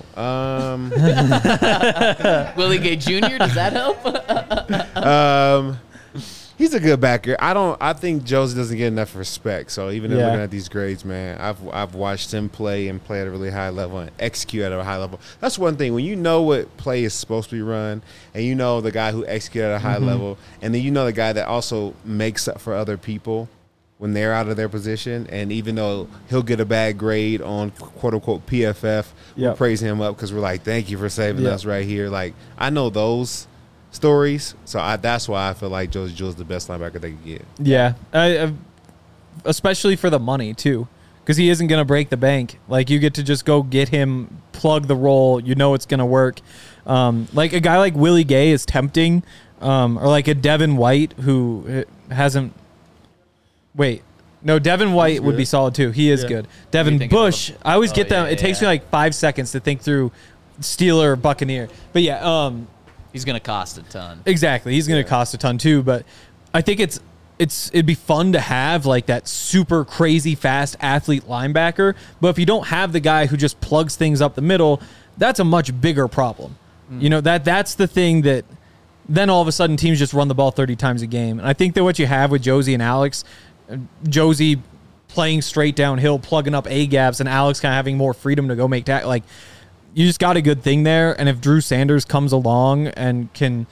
Willie Gay Jr., does that help? He's a good backer. I think Josie doesn't get enough respect. So even in Yeah. looking at these grades, man, I've watched him play and play at a really high level and execute at a high level. That's one thing. When you know what play is supposed to be run, and you know the guy who executes at a high level, and then you know the guy that also makes up for other people when they're out of their position, and even though he'll get a bad grade on quote unquote PFF, we'll Yep. praise him up because we're like, thank you for saving Yep. us right here. Like I know those stories, so that's why I feel like Josie Jewell's the best linebacker they could get. Yeah. Especially for the money too, because he isn't gonna break the bank. Like you get to just go get him, plug the role. You know it's gonna work. Like a guy like Willie Gay is tempting, or like a Devin White who hasn't. Wait, no, Devin White would be solid too. He is Yeah. good. you Devin thinking Bush, of? I always Oh, get them. yeah, It takes yeah. me like 5 seconds to think through Steeler or Buccaneer. But yeah, He's going to cost a ton. exactly. He's going to cost a ton too. But I think it'd be fun to have like that super crazy fast athlete linebacker. But if you don't have the guy who just plugs things up the middle, that's a much bigger problem. You know, that's the thing that then all of a sudden teams just run the ball 30 times a game. And I think that what you have with Josie and Alex, Josie playing straight downhill, plugging up A gaps, and Alex kind of having more freedom to go make tackles. Like, you just got a good thing there. And if Drew Sanders comes along and can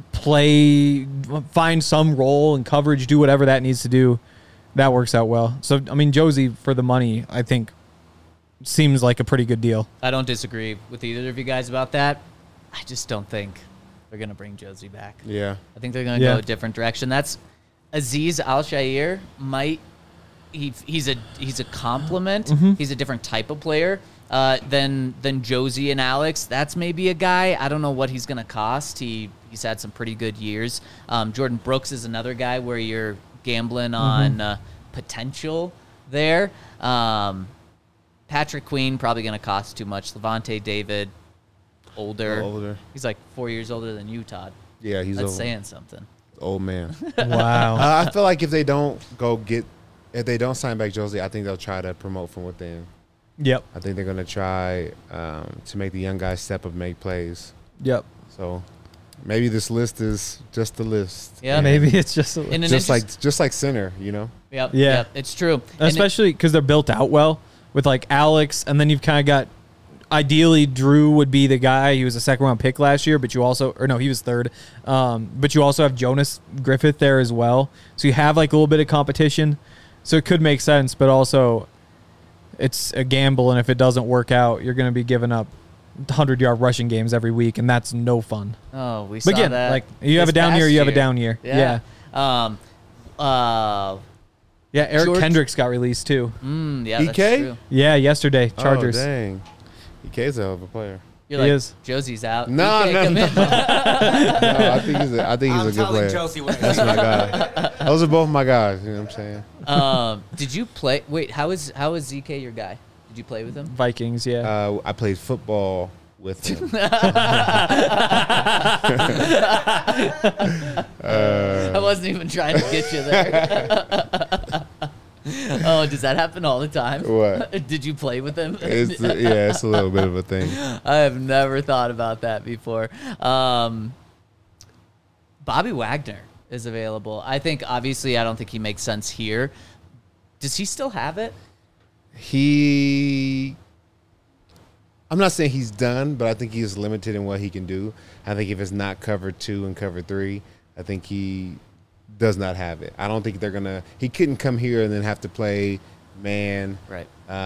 find some role and coverage, do whatever that needs to do, that works out well. So, I mean, Josie, for the money, I think seems like a pretty good deal. I don't disagree with either of you guys about that. I just don't think they're going to bring Josie back. Yeah. I think they're going to go a different direction. That's Azeez Al-Shaair he's a compliment. He's a different type of player than Josie and Alex. That's maybe a guy. I don't know what he's going to cost. He's had some pretty good years. Jordan Brooks is another guy where you're gambling on potential there. Patrick Queen probably going to cost too much. Levante David, older. Older. He's like 4 years older than you, Todd. Yeah, he's That's old. saying something. Old man. Wow. I feel like if they don't sign back Josie, I think they'll try to promote from within. Yep. I think they're going to try to make the young guys step up, make plays. Yep. So maybe this list is just the list. Yeah, Maybe it's just a In an Just interest- like center, you know. Yep, Yeah. yep, it's true. And especially because they're built out well with like Alex, and then you've kind of got. Ideally, Drew would be the guy. He was a second-round pick last year, but he was third. But you also have Jonas Griffith there as well, so you have like a little bit of competition. So it could make sense, but also it's a gamble, and if it doesn't work out, you're going to be giving up 100-yard rushing games every week, and that's no fun. Oh, we saw But again, that. like you have a this down year, past you have a down year. Yeah. Yeah, Eric George- Kendricks got released too. Yeah, that's EK? true. Yeah, yesterday, Chargers. Oh, dang. EK's a hell of a player. You're He like, is. Josie's out. No, EK, no, come no. in. No, I think he's a I'm good telling player. Josie what That's my guy. Those are both my guys. You know what I'm saying? Did you play? Wait, how is ZK your guy? Did you play with him? Vikings, yeah. I played football with him. I wasn't even trying to get you there. Oh, does that happen all the time? What? Did you play with him? It's a little bit of a thing. I have never thought about that before. Bobby Wagner is available. I think, obviously, I don't think he makes sense here. Does he still have it? I'm not saying he's done, but I think he's limited in what he can do. I think if it's not cover 2 and cover 3, I think he does not have it. I don't think they're gonna. He couldn't come here and then have to play man, Right.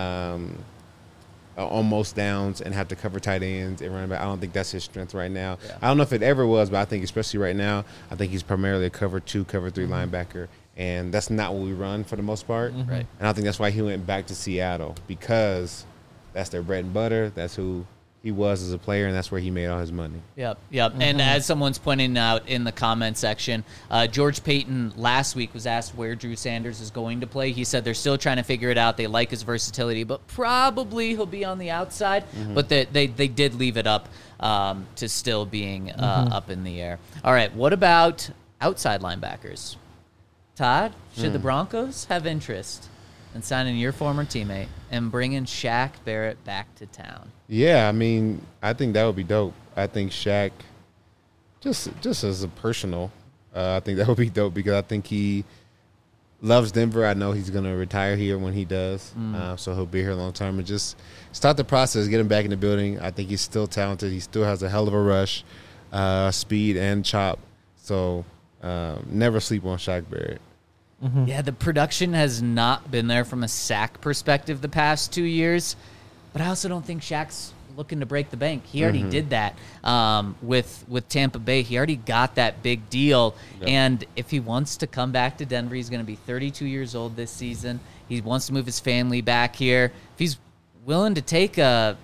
Almost downs and have to cover tight ends and run back. I don't think that's his strength right now. Yeah. I don't know if it ever was, but I think especially right now, I think he's primarily a cover 2, cover 3 linebacker, and that's not what we run for the most part. Right. And I think that's why he went back to Seattle, because that's their bread and butter. That's who he was as a player, and that's where he made all his money. Yep. And as someone's pointing out in the comment section, George Payton last week was asked where Drew Sanders is going to play. He said they're still trying to figure it out. They like his versatility, but probably he'll be on the outside. But they did leave it up to still being up in the air. All right, what about outside linebackers? Todd, should the Broncos have interest in signing your former teammate and bringing Shaq Barrett back to town? Yeah, I mean, I think that would be dope. I think Shaq, just as a personal, I think that would be dope because I think he loves Denver. I know he's going to retire here when he does, so he'll be here a long time. And just start the process, get him back in the building. I think he's still talented. He still has a hell of a rush, speed, and chop. So never sleep on Shaq Barrett. Yeah, the production has not been there from a sack perspective the past 2 years, but I also don't think Shaq's looking to break the bank. He already did that with Tampa Bay. He already got that big deal, and if he wants to come back to Denver, he's going to be 32 years old this season. He wants to move his family back here. If he's willing to take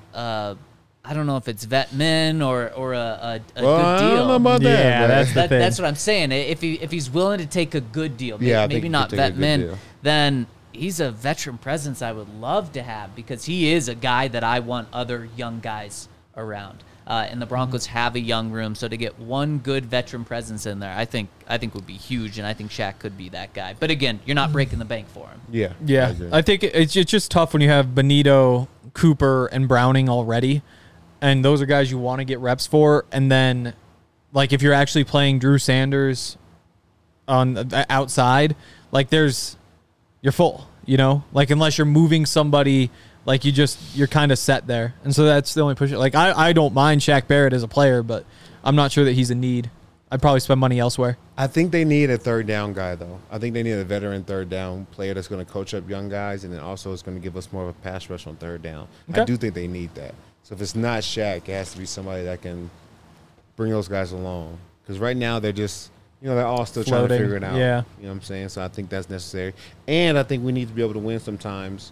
I don't know if it's vet min or a good deal. I don't know about that. Yeah, but- that's the thing. That's what I'm saying. If he's willing to take a good deal, Yeah, I think maybe he not could take a vet good min, deal. then he's a veteran presence I would love to have because he is a guy that I want other young guys around. And the Broncos have a young room, so to get one good veteran presence in there, I think would be huge, and I think Shaq could be that guy. But again, you're not breaking the bank for him. Yeah. Yeah, agree. I think it's just tough when you have Benito, Cooper, and Browning already, and those are guys you want to get reps for. And then, like, if you're actually playing Drew Sanders on the outside, like, you're full, you know? Like, unless you're moving somebody, like, you're kind of set there. And so that's the only push. Like, I don't mind Shaq Barrett as a player, but I'm not sure that he's a need. I'd probably spend money elsewhere. I think they need a third down guy, though. I think they need a veteran third down player that's going to coach up young guys, and then also is going to give us more of a pass rush on third down. Okay. I do think they need that. So if it's not Shaq, it has to be somebody that can bring those guys along. Because right now they're just, they're all still trying to Floating. figure it out. Yeah. You know what I'm saying? So I think that's necessary. And I think we need to be able to win sometimes,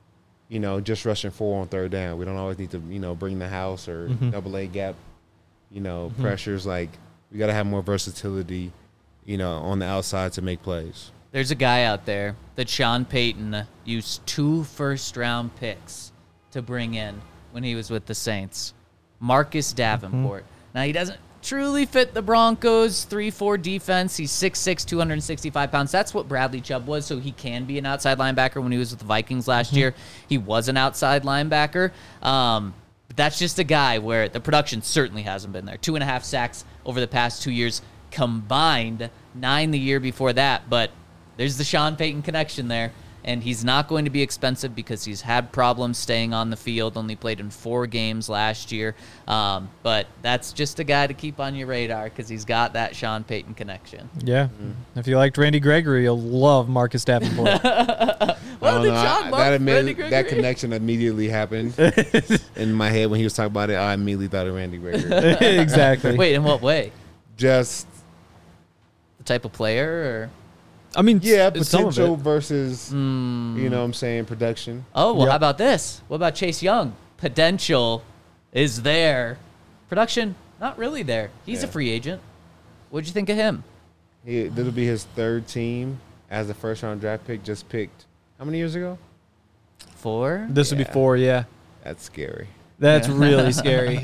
just rushing 4 on third down. We don't always need to, bring the house or double A gap, pressures. Like, we got to have more versatility, on the outside to make plays. There's a guy out there that Sean Payton used 2 first-round picks to bring in when he was with the Saints. Marcus Davenport. Now, he doesn't truly fit the Broncos' 3-4 defense. He's 6'6", 265 pounds. That's what Bradley Chubb was, so he can be an outside linebacker. When he was with the Vikings last year, he was an outside linebacker. But that's just a guy where the production certainly hasn't been there. 2.5 sacks over the past 2 years combined, 9 the year before that. But there's the Sean Payton connection there. And he's not going to be expensive because he's had problems staying on the field, only played in 4 games last year. But that's just a guy to keep on your radar because he's got that Sean Payton connection. Yeah. If you liked Randy Gregory, you'll love Marcus Davenport. Well, did John love Randy Gregory? That connection immediately happened in my head when he was talking about it. I immediately thought of Randy Gregory. Exactly. Wait, in what way? Just The type of player? I mean, Yeah, some of potential it. versus, you know what I'm saying, production. Oh, well, Yep. how about this? What about Chase Young? Potential is there. Production, not really there. He's a Yeah. free agent. What'd you think of him? This'll be his third team as a first-round draft pick, just picked how many years ago? 4? This would be Yeah. 4, yeah. That's scary. That's Yeah. really scary.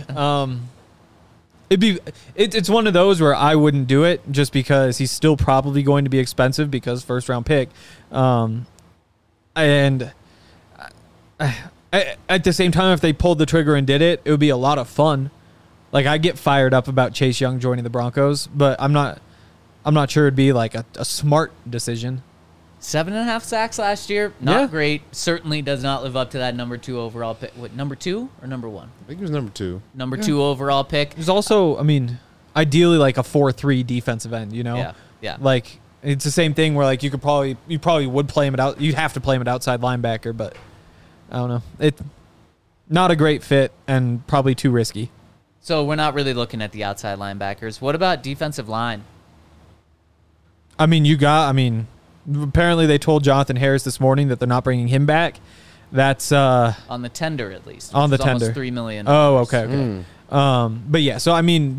It's one of those where I wouldn't do it just because he's still probably going to be expensive because first round pick, and at the same time, if they pulled the trigger and did it, it would be a lot of fun. Like I get fired up about Chase Young joining the Broncos, but I'm not sure it'd be like a smart decision. 7.5 sacks last year. Not Yeah. great. Certainly does not live up to that number 2 overall pick. What, number 2 or number 1? I think it was number 2. Number 2 overall pick. There's also, I mean, ideally like a 4-3 defensive end. You know, Yeah. Like it's the same thing where like you probably would play him at out. You'd have to play him at outside linebacker, but I don't know. It not a great fit and probably too risky. So we're not really looking at the outside linebackers. What about defensive line? I mean, apparently they told Jonathan Harris this morning that they're not bringing him back. That's On the tender, at least. On which the is almost tender. $3 million. oh, okay. But yeah, so I mean,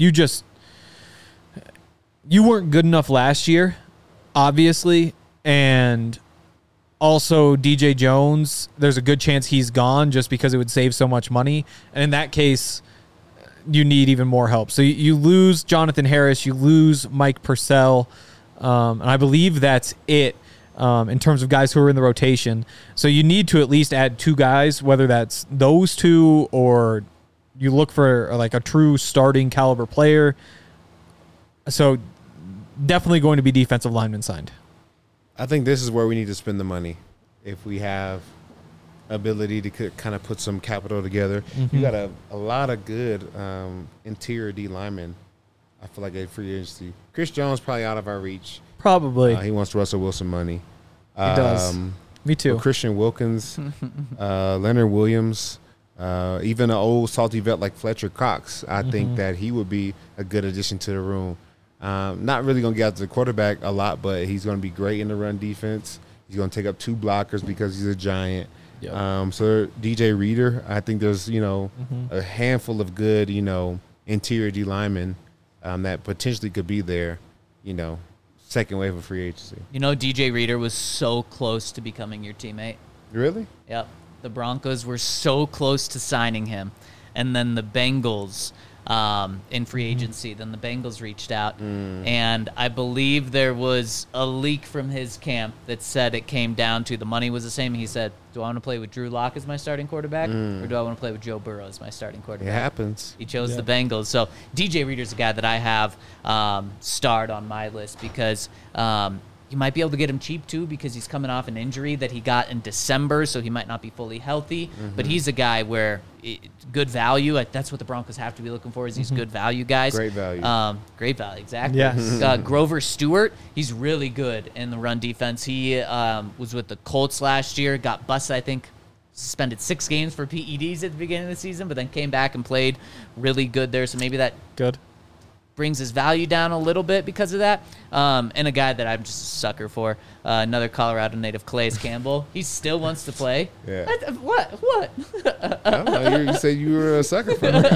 you weren't good enough last year, obviously, and also DJ Jones, there's a good chance he's gone just because it would save so much money, and in that case, you need even more help. So you lose Jonathan Harris, you lose Mike Purcell, and I believe that's it in terms of guys who are in the rotation. So you need to at least add 2 guys, whether that's those 2 or you look for like a true starting caliber player. So definitely going to be defensive lineman signed. I think this is where we need to spend the money. If we have ability to kind of put some capital together. You got a lot of good interior D linemen. I feel like a free agency. Chris Jones probably out of our reach. Probably. He wants Russell Wilson money. He does. Me too. Christian Wilkins, Leonard Williams, even an old salty vet like Fletcher Cox. I think that he would be a good addition to the room. Not really going to get out to the quarterback a lot, but he's going to be great in the run defense. He's going to take up 2 blockers because he's a giant. Yep. So DJ Reader, I think there's, a handful of good, interior D linemen that potentially could be there, second wave of free agency. DJ Reader was so close to becoming your teammate. Really? Yep. The Broncos were so close to signing him. And then the Bengals in free agency, then the Bengals reached out. And I believe there was a leak from his camp that said it came down to the money was the same. He said, do I want to play with Drew Lock as my starting quarterback or do I want to play with Joe Burrow as my starting It quarterback? happens. He chose the Bengals. So DJ Reader's a guy that I have starred on my list because you might be able to get him cheap too because he's coming off an injury that he got in December, so he might not be fully healthy. But he's a guy where good value. That's what the Broncos have to be looking for is these good value guys. Great value. Great value, exactly. Yes. Grover Stewart, he's really good in the run defense. He was with the Colts last year, got busted, I think, suspended 6 games for PEDs at the beginning of the season, but then came back and played really good there. So maybe that Good. brings his value down a little bit because of that. And a guy that I'm just a sucker for, another Colorado native, Calais Campbell. He still wants to play. Yeah. What? I don't know. You said you were a sucker for him.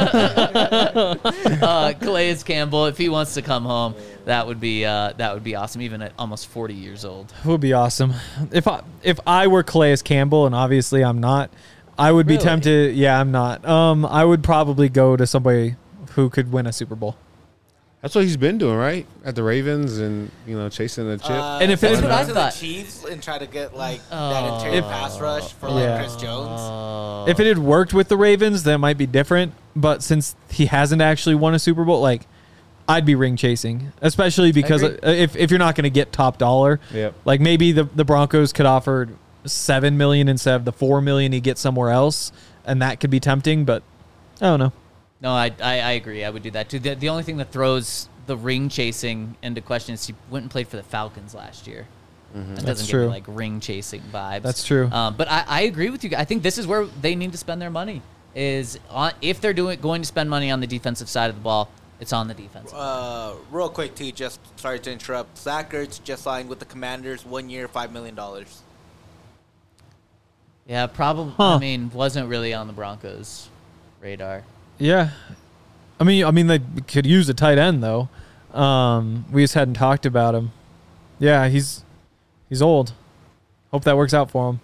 Calais Campbell, if he wants to come home, that would be awesome, even at almost 40 years old. It would be awesome. If I were Calais Campbell, and obviously I'm not, I would be Really? tempted. Yeah, I'm not. I would probably go to somebody who could win a Super Bowl. That's what he's been doing, right? At the Ravens and, chasing the chip. And if it That's had- what I to the thought. Chiefs and try to get that interior pass rush for Yeah. Chris Jones. If it had worked with the Ravens, that might be different. But since he hasn't actually won a Super Bowl, I'd be ring chasing, especially because agree. if you're not going to get top dollar, Yep. maybe the Broncos could offer $7 million instead of the $4 million he gets somewhere else, and that could be tempting. But I don't know. No, I agree. I would do that too. The only thing that throws the ring chasing into question is he went and played for the Falcons last year. That doesn't true. give me ring chasing vibes. That's true. But I agree with you. I think this is where they need to spend their money. Is on, if they're going to spend money on the defensive side of the ball, It's on the defense. Real quick, too, just sorry to interrupt. Zach Ertz just signed with the Commanders, 1 year, $5 million. Yeah, probably. Huh. I mean, wasn't really on the Broncos' radar. Yeah. I mean, they could use a tight end, though. We just hadn't talked about him. Yeah, he's old. Hope that works out for him.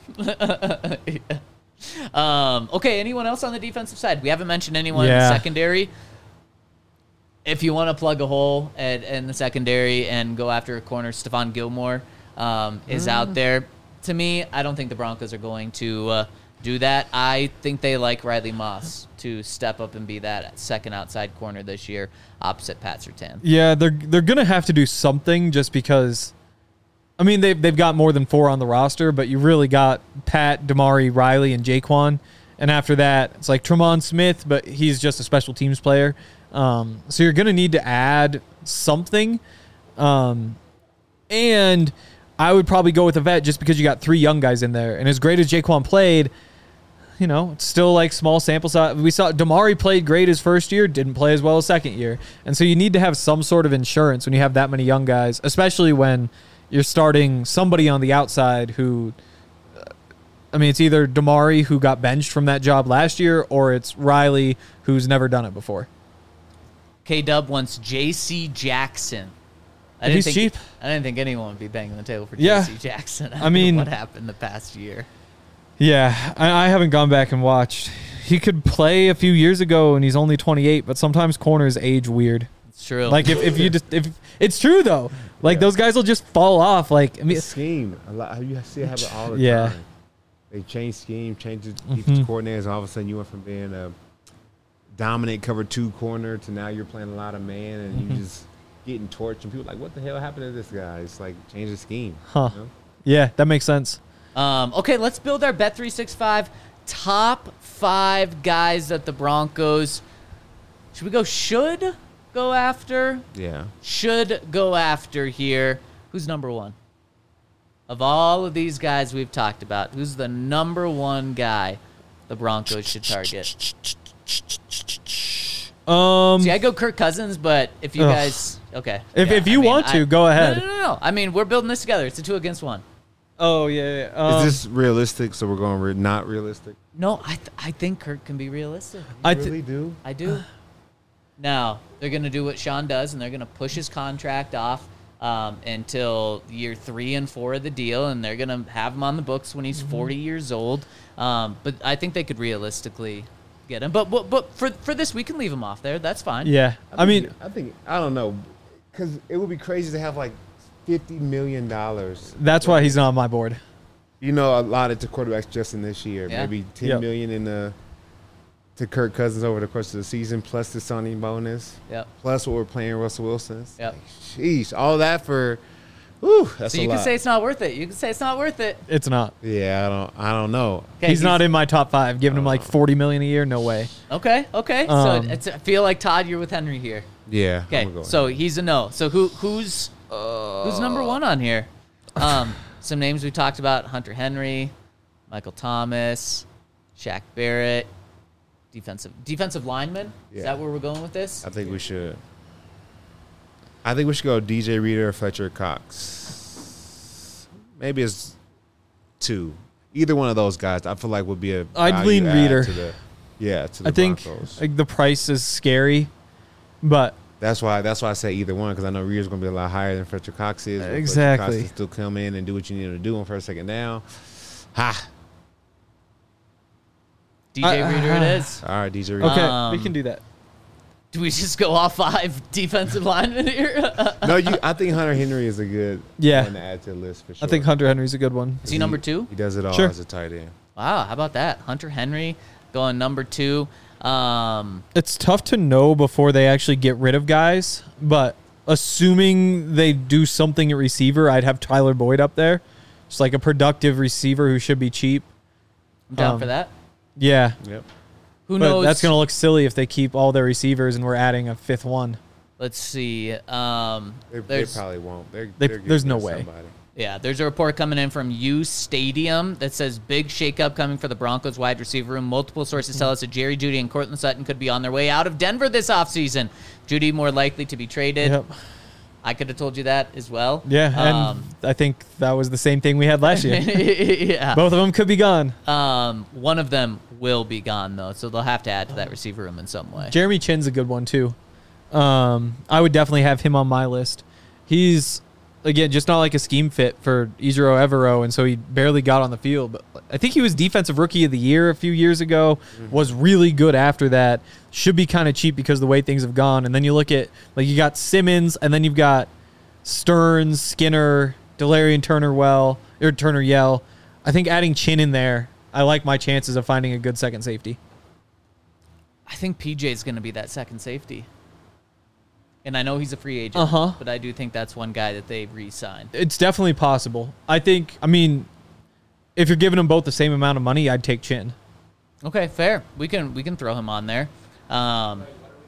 Okay, anyone else on the defensive side? We haven't mentioned anyone in Yeah. the secondary. If you want to plug a hole in the secondary and go after a corner, Stephon Gilmore is out there. To me, I don't think the Broncos are going to do that. I think they like Riley Moss to step up and be that second outside corner this year opposite Pat Surtain. Yeah, they're gonna have to do something just because. I mean, they've got more than 4 on the roster, but you really got Pat, Damari, Riley, and Jaquan. And after that, it's like Tremont Smith, but he's just a special teams player. So you're going to need to add something. And I would probably go with a vet just because you got 3 young guys in there. And as great as Jaquan played, it's still like small sample size. We saw Damari played great his first year, didn't play as well as second year. And so you need to have some sort of insurance when you have that many young guys, especially when you're starting somebody on the outside who, it's either Damari, who got benched from that job last year, or it's Riley, who's never done it before. K-Dub wants J.C. Jackson. If he's cheap. I didn't think anyone would be banging the table for Yeah. J.C. Jackson. I mean- what happened the past year? Yeah, I haven't gone back and watched. He could play a few years ago, and he's only 28, but sometimes corners age weird. It's true. Like, if it's true, though. Like, those guys will just fall off. Like, The scheme. A lot. You see it happen all the Yeah. time. They change scheme, change the defense coordinators, and all of a sudden you went from being a dominant cover 2 corner to now you're playing a lot of man and you just getting torched. And people are like, what the hell happened to this guy? It's like, change the scheme. Huh. You know? Yeah, that makes sense. Okay, let's build our Bet365 top 5 guys that the Broncos should go after. Yeah. Should go after here. Who's number 1? Of all of these guys we've talked about, who's the number 1 guy the Broncos should target? See, I go Kirk Cousins, but if you guys... Okay. If you want to, go ahead. No. I mean, we're building this together. It's a 2 against 1. Oh, yeah. Is this realistic? So we're going not realistic? No, I think Kirk can be realistic. I really do? I do. Now, they're going to do what Sean does, and they're going to push his contract off until year 3 and 4 of the deal, and they're going to have him on the books when he's 40 years old. But I think they could realistically get him. But for this, we can leave him off there. That's fine. Yeah. I don't know, because it would be crazy to have like $50 million. That's why he's not on my board. Allotted to quarterbacks just in this year. Yeah. Maybe $10 million to Kirk Cousins over the course of the season, plus the signing bonus. Yep. Plus what we're playing Russell Wilson. It's Yep. like, sheesh, all that for, whew, that's So a you lot. can say it's not worth it. You can say it's not worth it. It's not. Yeah, I don't know. Okay, He's not in my top 5. Giving him like $40 million a year, no way. Okay. So I feel like, Todd, you're with Henry here. Yeah. Okay, I'm gonna go so ahead. he's a no. So who's number 1 on here? Some names we talked about: Hunter Henry, Michael Thomas, Shaq Barrett, defensive lineman. Is Yeah. that where we're going with this? I think we should. I think we should go DJ Reader or Fletcher Cox. Maybe it's 2. Either one of those guys, I feel like would be a. I'd value lean add Reader. To the I think Broncos. like the price is scary, but That's why I say either one, because I know Reader's going to be a lot higher than Fletcher Cox is. but Exactly. Fletcher Cox can still come in and do what you need him to do on first, second down. Ha! DJ Reader it is. All right, DJ Reader. okay, we can do that. Do we just go off 5 defensive linemen here? No, I think Hunter Henry is a good Yeah. one to add to the list for sure. I think Hunter Henry's a good one. Is he number 2? He does it all Sure. as a tight end. Wow, how about that? Hunter Henry going number 2. It's tough to know before they actually get rid of guys, but assuming they do something at receiver, I'd have Tyler Boyd up there. Just like a productive receiver who should be cheap. I'm down for that. Yeah. Yep. Who But knows? that's going to look silly if they keep all their receivers and we're adding a 5th one. Let's see. They There's probably won't. There's no way. Somebody. Yeah, there's a report coming in from U Stadium that says big shakeup coming for the Broncos wide receiver room. Multiple sources tell us that Jerry Jeudy and Cortland Sutton could be on their way out of Denver this offseason. Jeudy more likely to be traded. Yep. I could have told you that as well. Yeah, and I think that was the same thing we had last year. Yeah. Both of them could be gone. One of them will be gone, though, so they'll have to add to that receiver room in some way. Jeremy Chin's a good one, too. I would definitely have him on my list. He's, again, just not like a scheme fit for Ejiro Evero, and so he barely got on the field. But I think he was Defensive Rookie of the Year a few years ago, was really good after that. Should be kind of cheap because of the way things have gone. And then you look at, like, you got Simmons, and then you've got Stearns, Skinner, Delarian Turner-Yell. I think adding Chin in there, I like my chances of finding a good second safety. I think PJ's going to be that second safety. And I know he's a free agent, but I do think that's one guy that they re-signed. It's definitely possible. I mean, if you're giving them both the same amount of money, I'd take Chin. Okay, fair. We can throw him on there. Do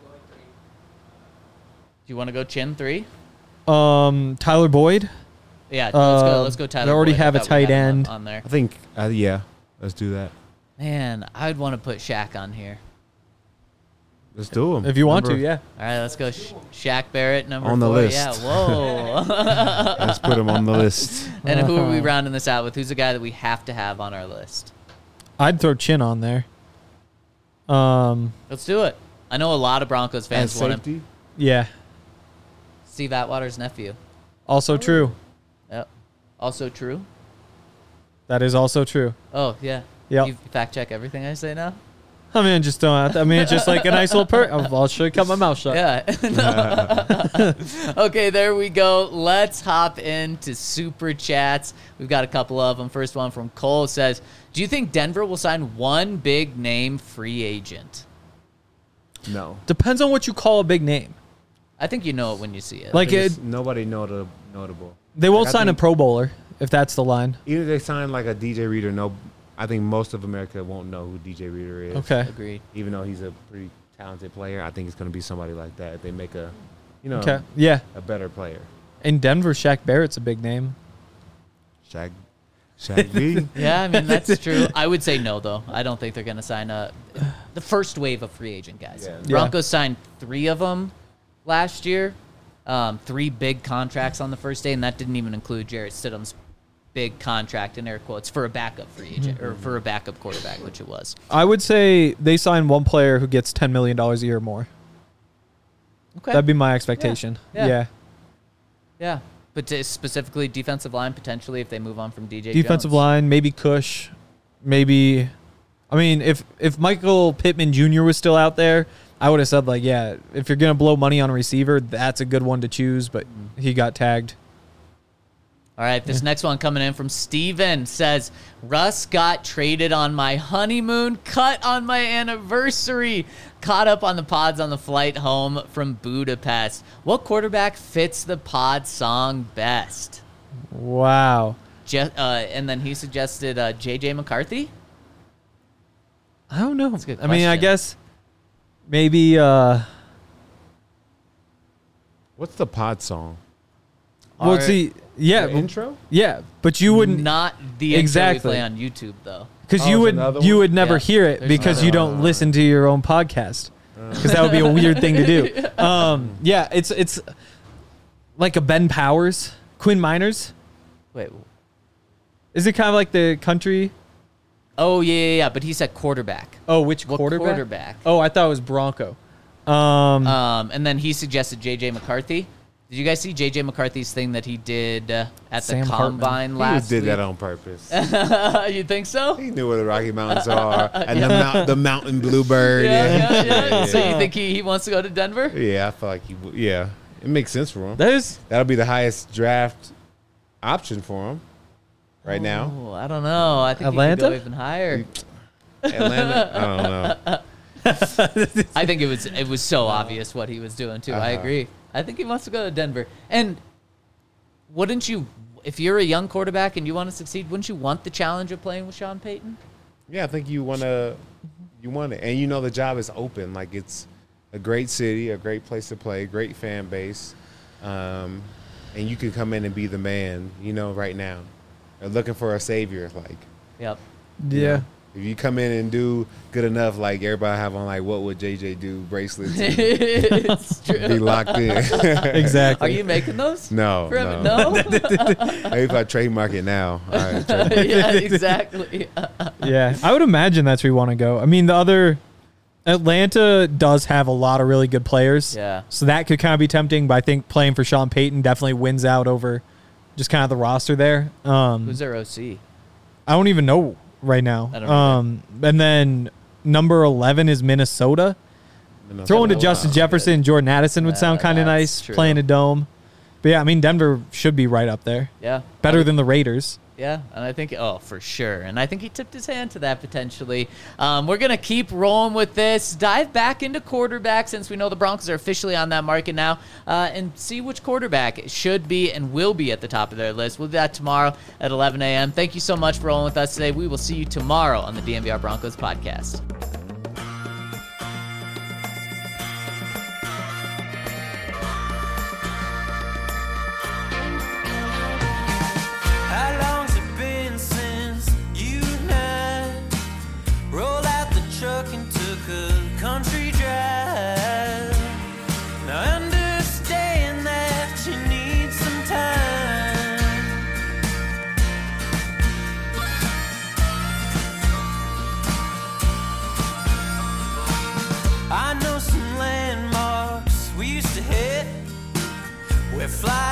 you want to go Chin 3? Tyler Boyd. Yeah, let's go Tyler. They already Boyd. have I a thought we tight had him end. on there. I think, yeah, let's do that. Man, I'd want to put Shaq on here. Let's do them. If you want to, yeah. All right, let's go Shaq Barrett, number On the 4. list. Yeah, whoa. Let's put him on the list. And who are we rounding this out with? Who's a guy that we have to have on our list? I'd throw Chin on there. Let's do it. I know a lot of Broncos fans want him. safety? Yeah. Steve Atwater's nephew. Also true. Yep. Also true. That is also true. Oh, yeah. Yep. You fact check everything I say now? I mean, just don't have to. I mean, it's just like a nice little I'll should cut my mouth shut. Yeah. Okay, there we go. Let's hop into Super Chats. We've got a couple of them. First one from Cole says, do you think Denver will sign one big name free agent? No. Depends on what you call a big name. I think you know it when you see it. Like There's nobody notable. they won't Like, I sign a think- Pro Bowler if that's the line. Even if they sign like a DJ Reader, I think most of America won't know who DJ Reader is. Okay. Agreed. Even though he's a pretty talented player, I think it's going to be somebody like that. If they make a Okay. Yeah. a better player. In Denver, Shaq Barrett's a big name. Shaq B. Yeah, I mean, that's true. I would say no, though. I don't think they're going to sign the first wave of free agent guys. Yeah. Broncos signed 3 of them last year, 3 big contracts on the first day, and that didn't even include Jarrett Stidham's big contract, in air quotes, for a backup free agent, or for a backup quarterback, which it was. I would say they sign one player who gets $10 million a year more. Okay. That'd be my expectation. Yeah. Yeah. But specifically defensive line, potentially, if they move on from DJ Defensive Jones. line, maybe Cush, maybe. I mean, if Michael Pittman Jr. was still out there, I would have said, like, yeah, if you're going to blow money on a receiver, that's a good one to choose, but he got tagged. All right, this next one coming in from Steven says, Russ got traded on my honeymoon, cut on my anniversary, caught up on the pods on the flight home from Budapest. What quarterback fits the pod song best? Wow. And then he suggested J.J. McCarthy. I don't know. That's a good I mean, I question. guess maybe What's the pod song? well, see, yeah, The intro? yeah, but you wouldn't Not the intro Exactly. we play on YouTube, though. because Oh, you there's another you one? would never Yeah, hear it there's because another you don't listen to your own podcast because that would be a weird thing to do. Yeah, it's like a Ben Powers, Quinn Miners. Wait. Is it kind of like the country? Oh, yeah, but he said quarterback. Oh, which What quarterback? Oh, I thought it was Bronco. And then he suggested J.J. McCarthy. Did you guys see J.J. McCarthy's thing that he did at the Sam Combine He last just did week? that on purpose. You think so? He knew where the Rocky Mountains are and the mountain bluebird. Yeah. So you think he wants to go to Denver? Yeah, I feel like he would. Yeah, it makes sense for him. There's That'll be the highest draft option for him right now. Oh, I don't know. I think Atlanta? he could go even higher. Atlanta, I don't know. I think it was so obvious what he was doing too. I agree. I think he wants to go to Denver. And wouldn't you, if you're a young quarterback and you want to succeed, wouldn't you want the challenge of playing with Sean Payton? Yeah, I think you want it, and you know the job is open. Like it's a great city, a great place to play, great fan base. and you could come in and be the man, right now. They're looking for a savior, like. Yep. Yeah. If you come in and do good enough, like everybody have on, like, what would JJ do bracelets and It's true. be locked in. Exactly. Are you making those? No, For him? no. No? Maybe if I trademark it now. All right, trademark. Yeah, exactly. Yeah, I would imagine that's where you want to go. I mean, Atlanta does have a lot of really good players. Yeah. So that could kind of be tempting, but I think playing for Sean Payton definitely wins out over just kind of the roster there. Who's their OC? I don't even know right now. I don't know And then number 11 is Minnesota. Throwing to Justin Jefferson and Jordan Addison would sound kind of that's nice, true. playing a dome. But yeah, I mean, Denver should be right up there. Yeah. Better than the Raiders. Yeah, and I think, for sure. And I think he tipped his hand to that potentially. We're going to keep rolling with this. Dive back into quarterback since we know the Broncos are officially on that market now and see which quarterback should be and will be at the top of their list. We'll do that tomorrow at 11 a.m. Thank you so much for rolling with us today. We will see you tomorrow on the DNVR Broncos podcast. How long's it been since you and I rolled out the truck and took a country drive? Now I understand that you need some time. I know some landmarks we used to hit where fly